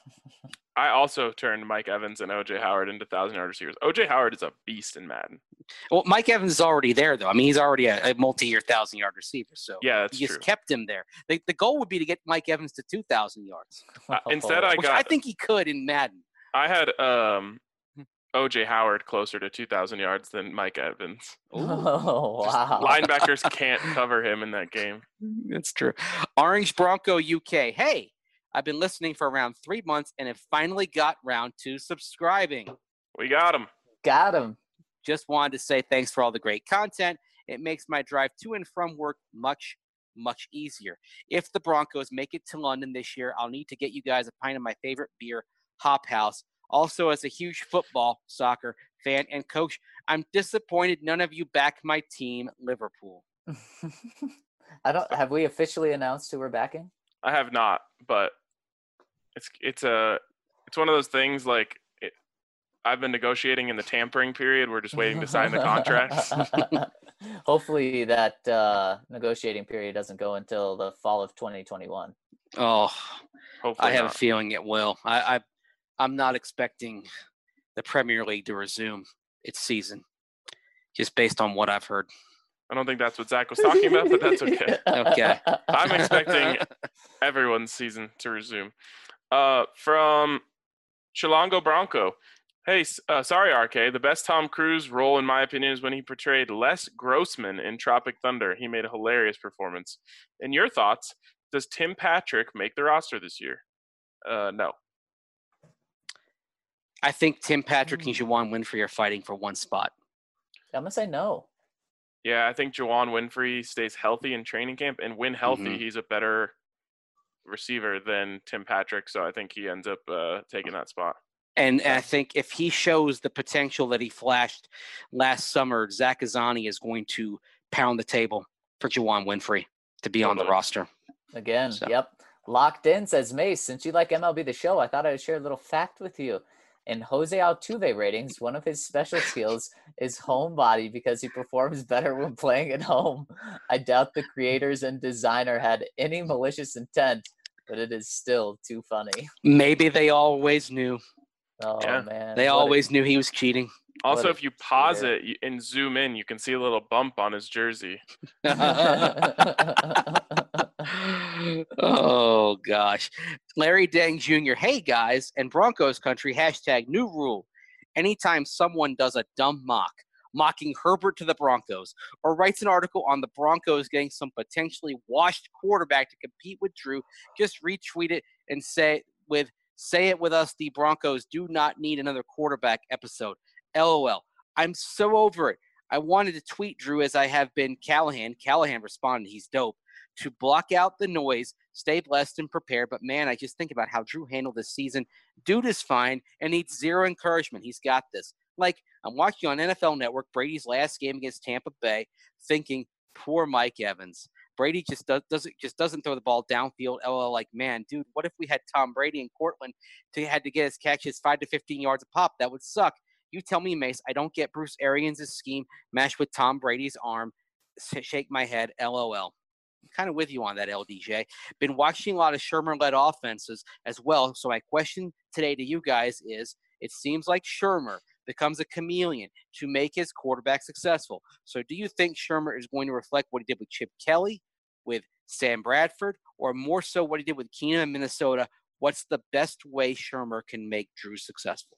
I also turned Mike Evans and O.J. Howard into 1,000-yard receivers. O.J. Howard is a beast in Madden. Well, Mike Evans is already there, though. I mean, he's already a multi-year 1,000-yard receiver. So Yeah, that's you true. just kept him there. The goal would be to get Mike Evans to 2,000 yards. Instead, Which I think he could in Madden. I had O.J. Howard closer to 2,000 yards than Mike Evans. Oh, Just wow. linebackers can't cover him in that game. That's true. Orange Bronco UK. Hey, I've been listening for around 3 months and have finally got round to subscribing. We got him. Got him. Just wanted to say thanks for all the great content. It makes my drive to and from work much, much easier. If the Broncos make it to London this year, I'll need to get you guys a pint of my favorite beer, Hop House. Also, as a huge football, soccer fan and coach, I'm disappointed none of you back my team, Liverpool. Have we officially announced who we're backing? I have not, but it's one of those things like I've been negotiating in the tampering period. We're just waiting to sign the contracts. Hopefully that negotiating period doesn't go until the fall of 2021. Oh, Hopefully I have not. a feeling it will. I'm not expecting the Premier League to resume its season, just based on what I've heard. I don't think that's what Zach was talking about, but that's okay. Okay. I'm expecting everyone's season to resume. From Chilongo Bronco. Hey, sorry, RK. The best Tom Cruise role, in my opinion, is when he portrayed Les Grossman in Tropic Thunder. He made a hilarious performance. In your thoughts, does Tim Patrick make the roster this year? No. I think Tim Patrick and Juwan Winfrey are fighting for one spot. I'm going to say no. Yeah, I think Juwan Winfrey stays healthy in training camp, and when healthy, he's a better receiver than Tim Patrick, so I think he ends up taking that spot. And I think if he shows the potential that he flashed last summer, Zach Azani is going to pound the table for Juwan Winfrey to be on the roster. Again, yep. Locked in, says Mace. Since you like MLB The Show, I thought I would share a little fact with you. In Jose Altuve ratings, one of his special skills is home body because he performs better when playing at home. I doubt the creators and designer had any malicious intent, but it is still too funny. Maybe they always knew. Oh, yeah. Man. They always knew he was cheating. Also, if you pause it and zoom in, you can see a little bump on his jersey. Oh, gosh. Larry Dang Jr. Hey, guys, and Broncos country, # new rule. Anytime someone does a dumb mocking Herbert to the Broncos, or writes an article on the Broncos getting some potentially washed quarterback to compete with Drew, just retweet it and say it with us, the Broncos do not need another quarterback episode. LOL. I'm so over it. I wanted to tweet Drew as I have been Callahan. Callahan responded, he's dope. To block out the noise, stay blessed and prepare. But, man, I just think about how Drew handled this season. Dude is fine and needs zero encouragement. He's got this. Like, I'm watching on NFL Network Brady's last game against Tampa Bay thinking, poor Mike Evans. Brady just doesn't throw the ball downfield. LOL, like, man, dude, what if we had Tom Brady in Cortland had to get his catches 5 to 15 yards a pop? That would suck. You tell me, Mace, I don't get Bruce Arians' scheme matched with Tom Brady's arm. Shake my head, LOL. I'm kind of with you on that, LDJ. Been watching a lot of Shermer-led offenses as well. So my question today to you guys is, it seems like Shermer becomes a chameleon to make his quarterback successful. So do you think Shermer is going to reflect what he did with Chip Kelly, with Sam Bradford, or more so what he did with Keenum in Minnesota? What's the best way Shermer can make Drew successful?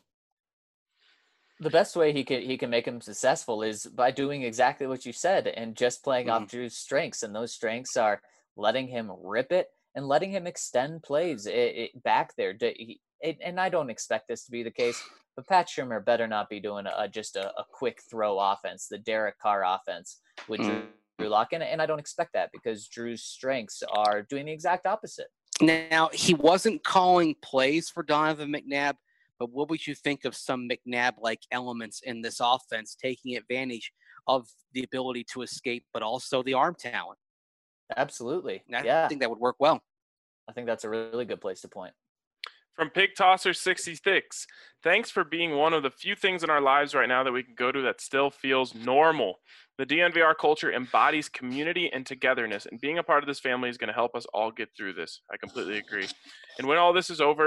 The best way he can make him successful is by doing exactly what you said and just playing off Drew's strengths. And those strengths are letting him rip it and letting him extend plays back there. And I don't expect this to be the case, but Pat Shermer better not be doing just a quick throw offense, the Derek Carr offense with Drew Lock. And I don't expect that because Drew's strengths are doing the exact opposite. Now, he wasn't calling plays for Donovan McNabb, but what would you think of some McNabb-like elements in this offense, taking advantage of the ability to escape, but also the arm talent? Absolutely. I think that would work well. I think that's a really good place to point. From Pig Tosser 66, thanks for being one of the few things in our lives right now that we can go to that still feels normal. The DNVR culture embodies community and togetherness, and being a part of this family is going to help us all get through this. I completely agree. And when all this is over,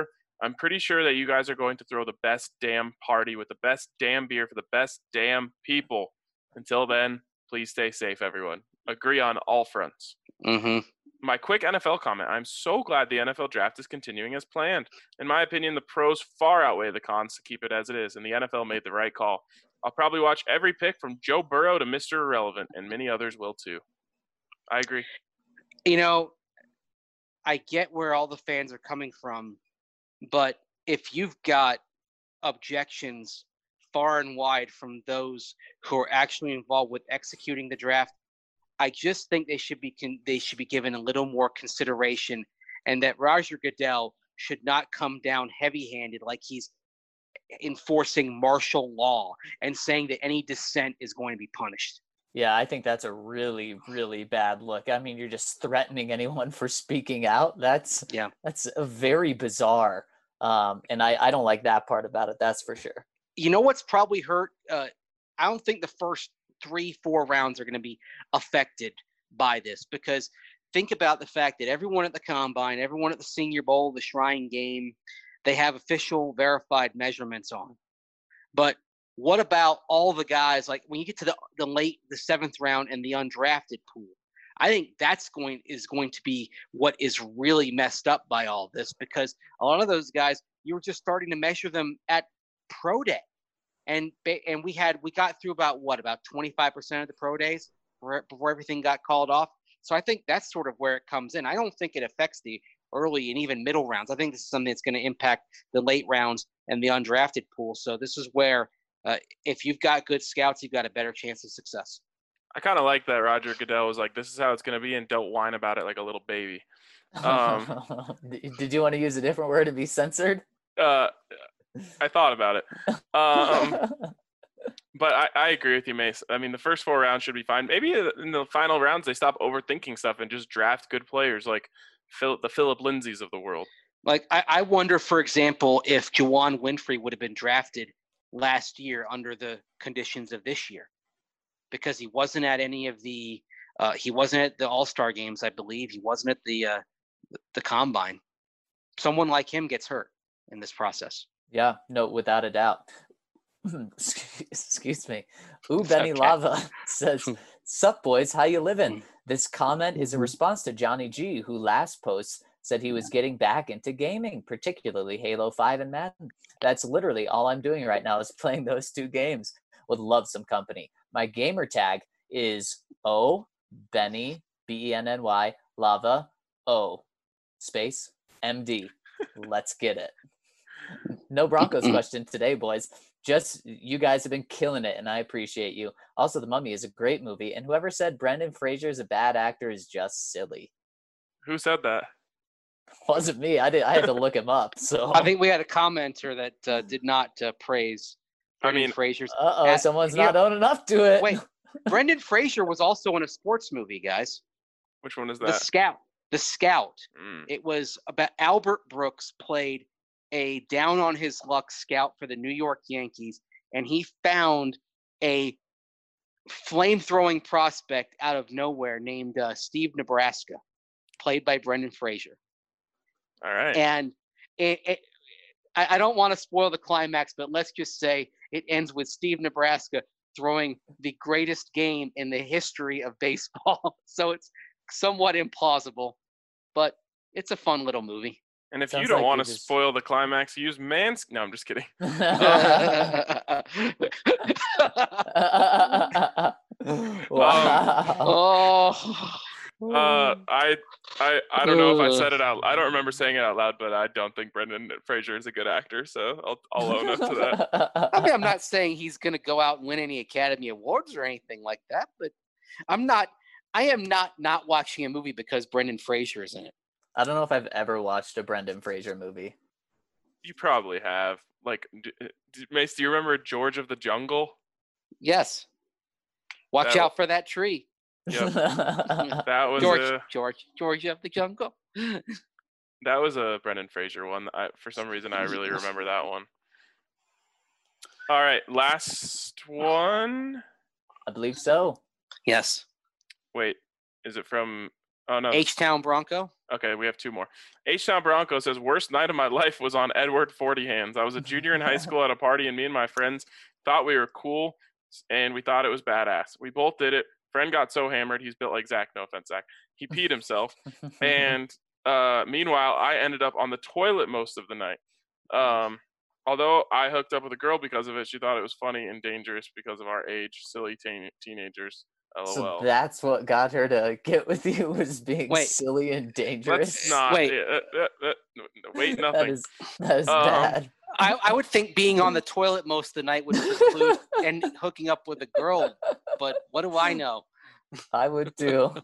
I'm pretty sure that you guys are going to throw the best damn party with the best damn beer for the best damn people. Until then, please stay safe, everyone. Agree on all fronts. Mm-hmm. My quick NFL comment. I'm so glad the NFL draft is continuing as planned. In my opinion, the pros far outweigh the cons to keep it as it is, and the NFL made the right call. I'll probably watch every pick from Joe Burrow to Mr. Irrelevant, and many others will too. I agree. You know, I get where all the fans are coming from, but if you've got objections far and wide from those who are actually involved with executing the draft, I just think they should be given a little more consideration, and that Roger Goodell should not come down heavy-handed like he's enforcing martial law and saying that any dissent is going to be punished. Yeah, I think that's a really, really bad look. I mean, you're just threatening anyone for speaking out. That's a very bizarre. And I don't like that part about it. That's for sure. You know what's probably hurt? I don't think the first 3-4 rounds are going to be affected by this, because think about the fact that everyone at the Combine, everyone at the Senior Bowl, the Shrine Game, they have official verified measurements on. But what about all the guys, like when you get to the 7th round and the undrafted pool? I think that's going to be what is really messed up by all this, because a lot of those guys, you were just starting to measure them at pro day. And we got through about 25% of the pro days before everything got called off. So I think that's sort of where it comes in. I don't think it affects the early and even middle rounds. I think this is something that's going to impact the late rounds and the undrafted pool. So this is where if you've got good scouts, you've got a better chance of success. I kind of like that Roger Goodell was like, this is how it's going to be, and don't whine about it like a little baby. Did you want to use a different word to be censored? I thought about it. But I agree with you, Mace. I mean, the first 4 rounds should be fine. Maybe in the final rounds, they stop overthinking stuff and just draft good players like the Philip Lindsays of the world. Like, I wonder, for example, if Juwan Winfrey would have been drafted last year under the conditions of this year, because he wasn't at any of the he wasn't at the All-Star games, I believe. He wasn't at the Combine. Someone like him gets hurt in this process. Yeah, no, without a doubt. Excuse me. Ooh, Benny okay. Lava says, "Sup, boys? How you living?" This comment is a response to Johnny G, who last post said he was getting back into gaming, particularly Halo 5 and Madden. That's literally all I'm doing right now is playing those 2 games. Would love some company. My gamer tag is O Benny BENNY Lava O space MD. Let's get it. No Broncos question today, boys. Just you guys have been killing it, and I appreciate you. Also, The Mummy is a great movie, and whoever said Brendan Fraser is a bad actor is just silly. Who said that? Wasn't me. I had to look him up. So I think we had a commenter that did not praise Brendan Fraser's. Someone's not owning up to it. Wait, Brendan Fraser was also in a sports movie, guys. Which one is that? The Scout. It was about Albert Brooks played a down on his luck scout for the New York Yankees, and he found a flame-throwing prospect out of nowhere named Steve Nebraska, played by Brendan Fraser. All right. And I don't want to spoil the climax, but let's just say it ends with Steve Nebraska throwing the greatest game in the history of baseball. So it's somewhat implausible, but it's a fun little movie. And if you don't want to spoil the climax, use Manscaped. No, I'm just kidding. Wow. I don't know if I said it out. I don't remember saying it out loud, but I don't think Brendan Fraser is a good actor, so I'll own up to that. I mean, I'm not saying he's going to go out and win any Academy Awards or anything like that, but I am not watching a movie because Brendan Fraser is in it. I don't know if I've ever watched a Brendan Fraser movie. You probably have. Like, Mace, do you remember George of the Jungle? Yes. Watch out for that tree. Yep. That was George of the Jungle. That was a Brendan Fraser one. For some reason, I really remember that one. All right, last one. I believe so. Yes. Wait, is it from? Oh, no. H-Town Bronco. Okay, we have two more. H-Town Bronco says, worst night of my life was on Edward 40 Hands. I was a junior in high school at a party, and me and my friends thought we were cool, and we thought it was badass. We both did it. Friend got so hammered, he's built like Zach. No offense, Zach. He peed himself. And meanwhile, I ended up on the toilet most of the night. Although I hooked up with a girl because of it, she thought it was funny and dangerous because of our age. Silly teenagers. LOL. So that's what got her to get with you, was being silly and dangerous. Let's not. Wait. Wait, nothing. That is bad. I would think being on the toilet most of the night would include and hooking up with a girl, but what do I know? I would too.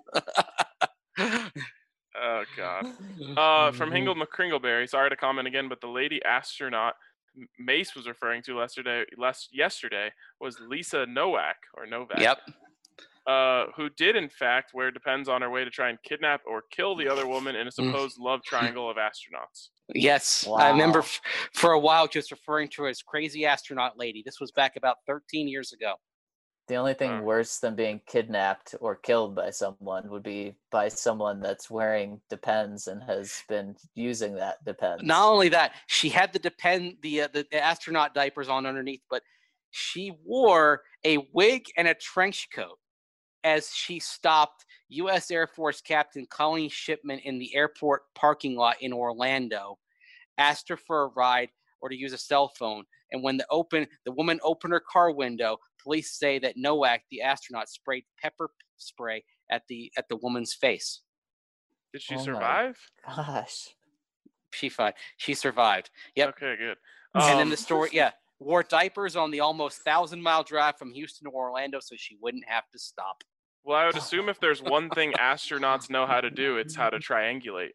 Oh, God. From Hingle McCringleberry, sorry to comment again, but the lady astronaut Mace was referring to yesterday was Lisa Nowak, or Novak. Yep. Who did, in fact, wear Depends on her way to try and kidnap or kill the other woman in a supposed love triangle of astronauts. Yes. Wow. I remember for a while just referring to her as crazy astronaut lady. This was back about 13 years ago. The only thing worse than being kidnapped or killed by someone would be by someone that's wearing Depends and has been using that Depends. Not only that, she had the astronaut diapers on underneath, but she wore a wig and a trench coat as she stopped U.S. Air Force Captain Colleen Shipman in the airport parking lot in Orlando, asked her for a ride or to use a cell phone. And when the woman opened her car window, police say that Nowak, the astronaut, sprayed pepper spray at the woman's face. Did she survive? Gosh. She survived. Yep. Okay, good. And then the story, wore diapers on the almost 1,000-mile drive from Houston to Orlando so she wouldn't have to stop. Well, I would assume if there's one thing astronauts know how to do, it's how to triangulate.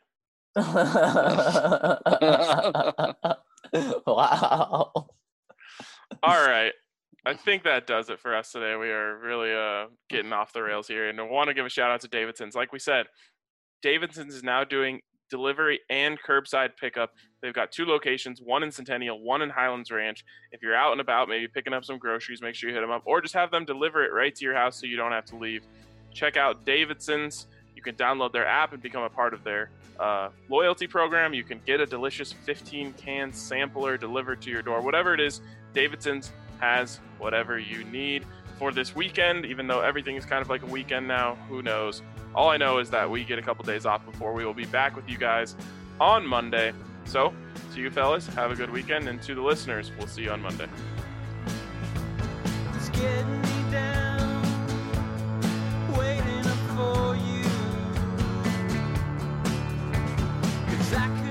Wow. All right. I think that does it for us today. We are really getting off the rails here. And I want to give a shout out to Davidson's. Like we said, Davidson's is now doing delivery and curbside pickup. They've got two locations, one in Centennial, one in Highlands Ranch. If you're out and about, maybe picking up some groceries, make sure you hit them up, or just have them deliver it right to your house so you don't have to leave. Check out Davidson's. You can download their app and become a part of their loyalty program. You can get a delicious 15-can sampler delivered to your door. Whatever it is, Davidson's has whatever you need for this weekend, even though everything is kind of like a weekend now. Who knows? All I know is that we get a couple days off before we will be back with you guys on Monday. So, to you fellas, have a good weekend, and to the listeners, we'll see you on Monday. It's getting me down, waiting up for you. 'Cause I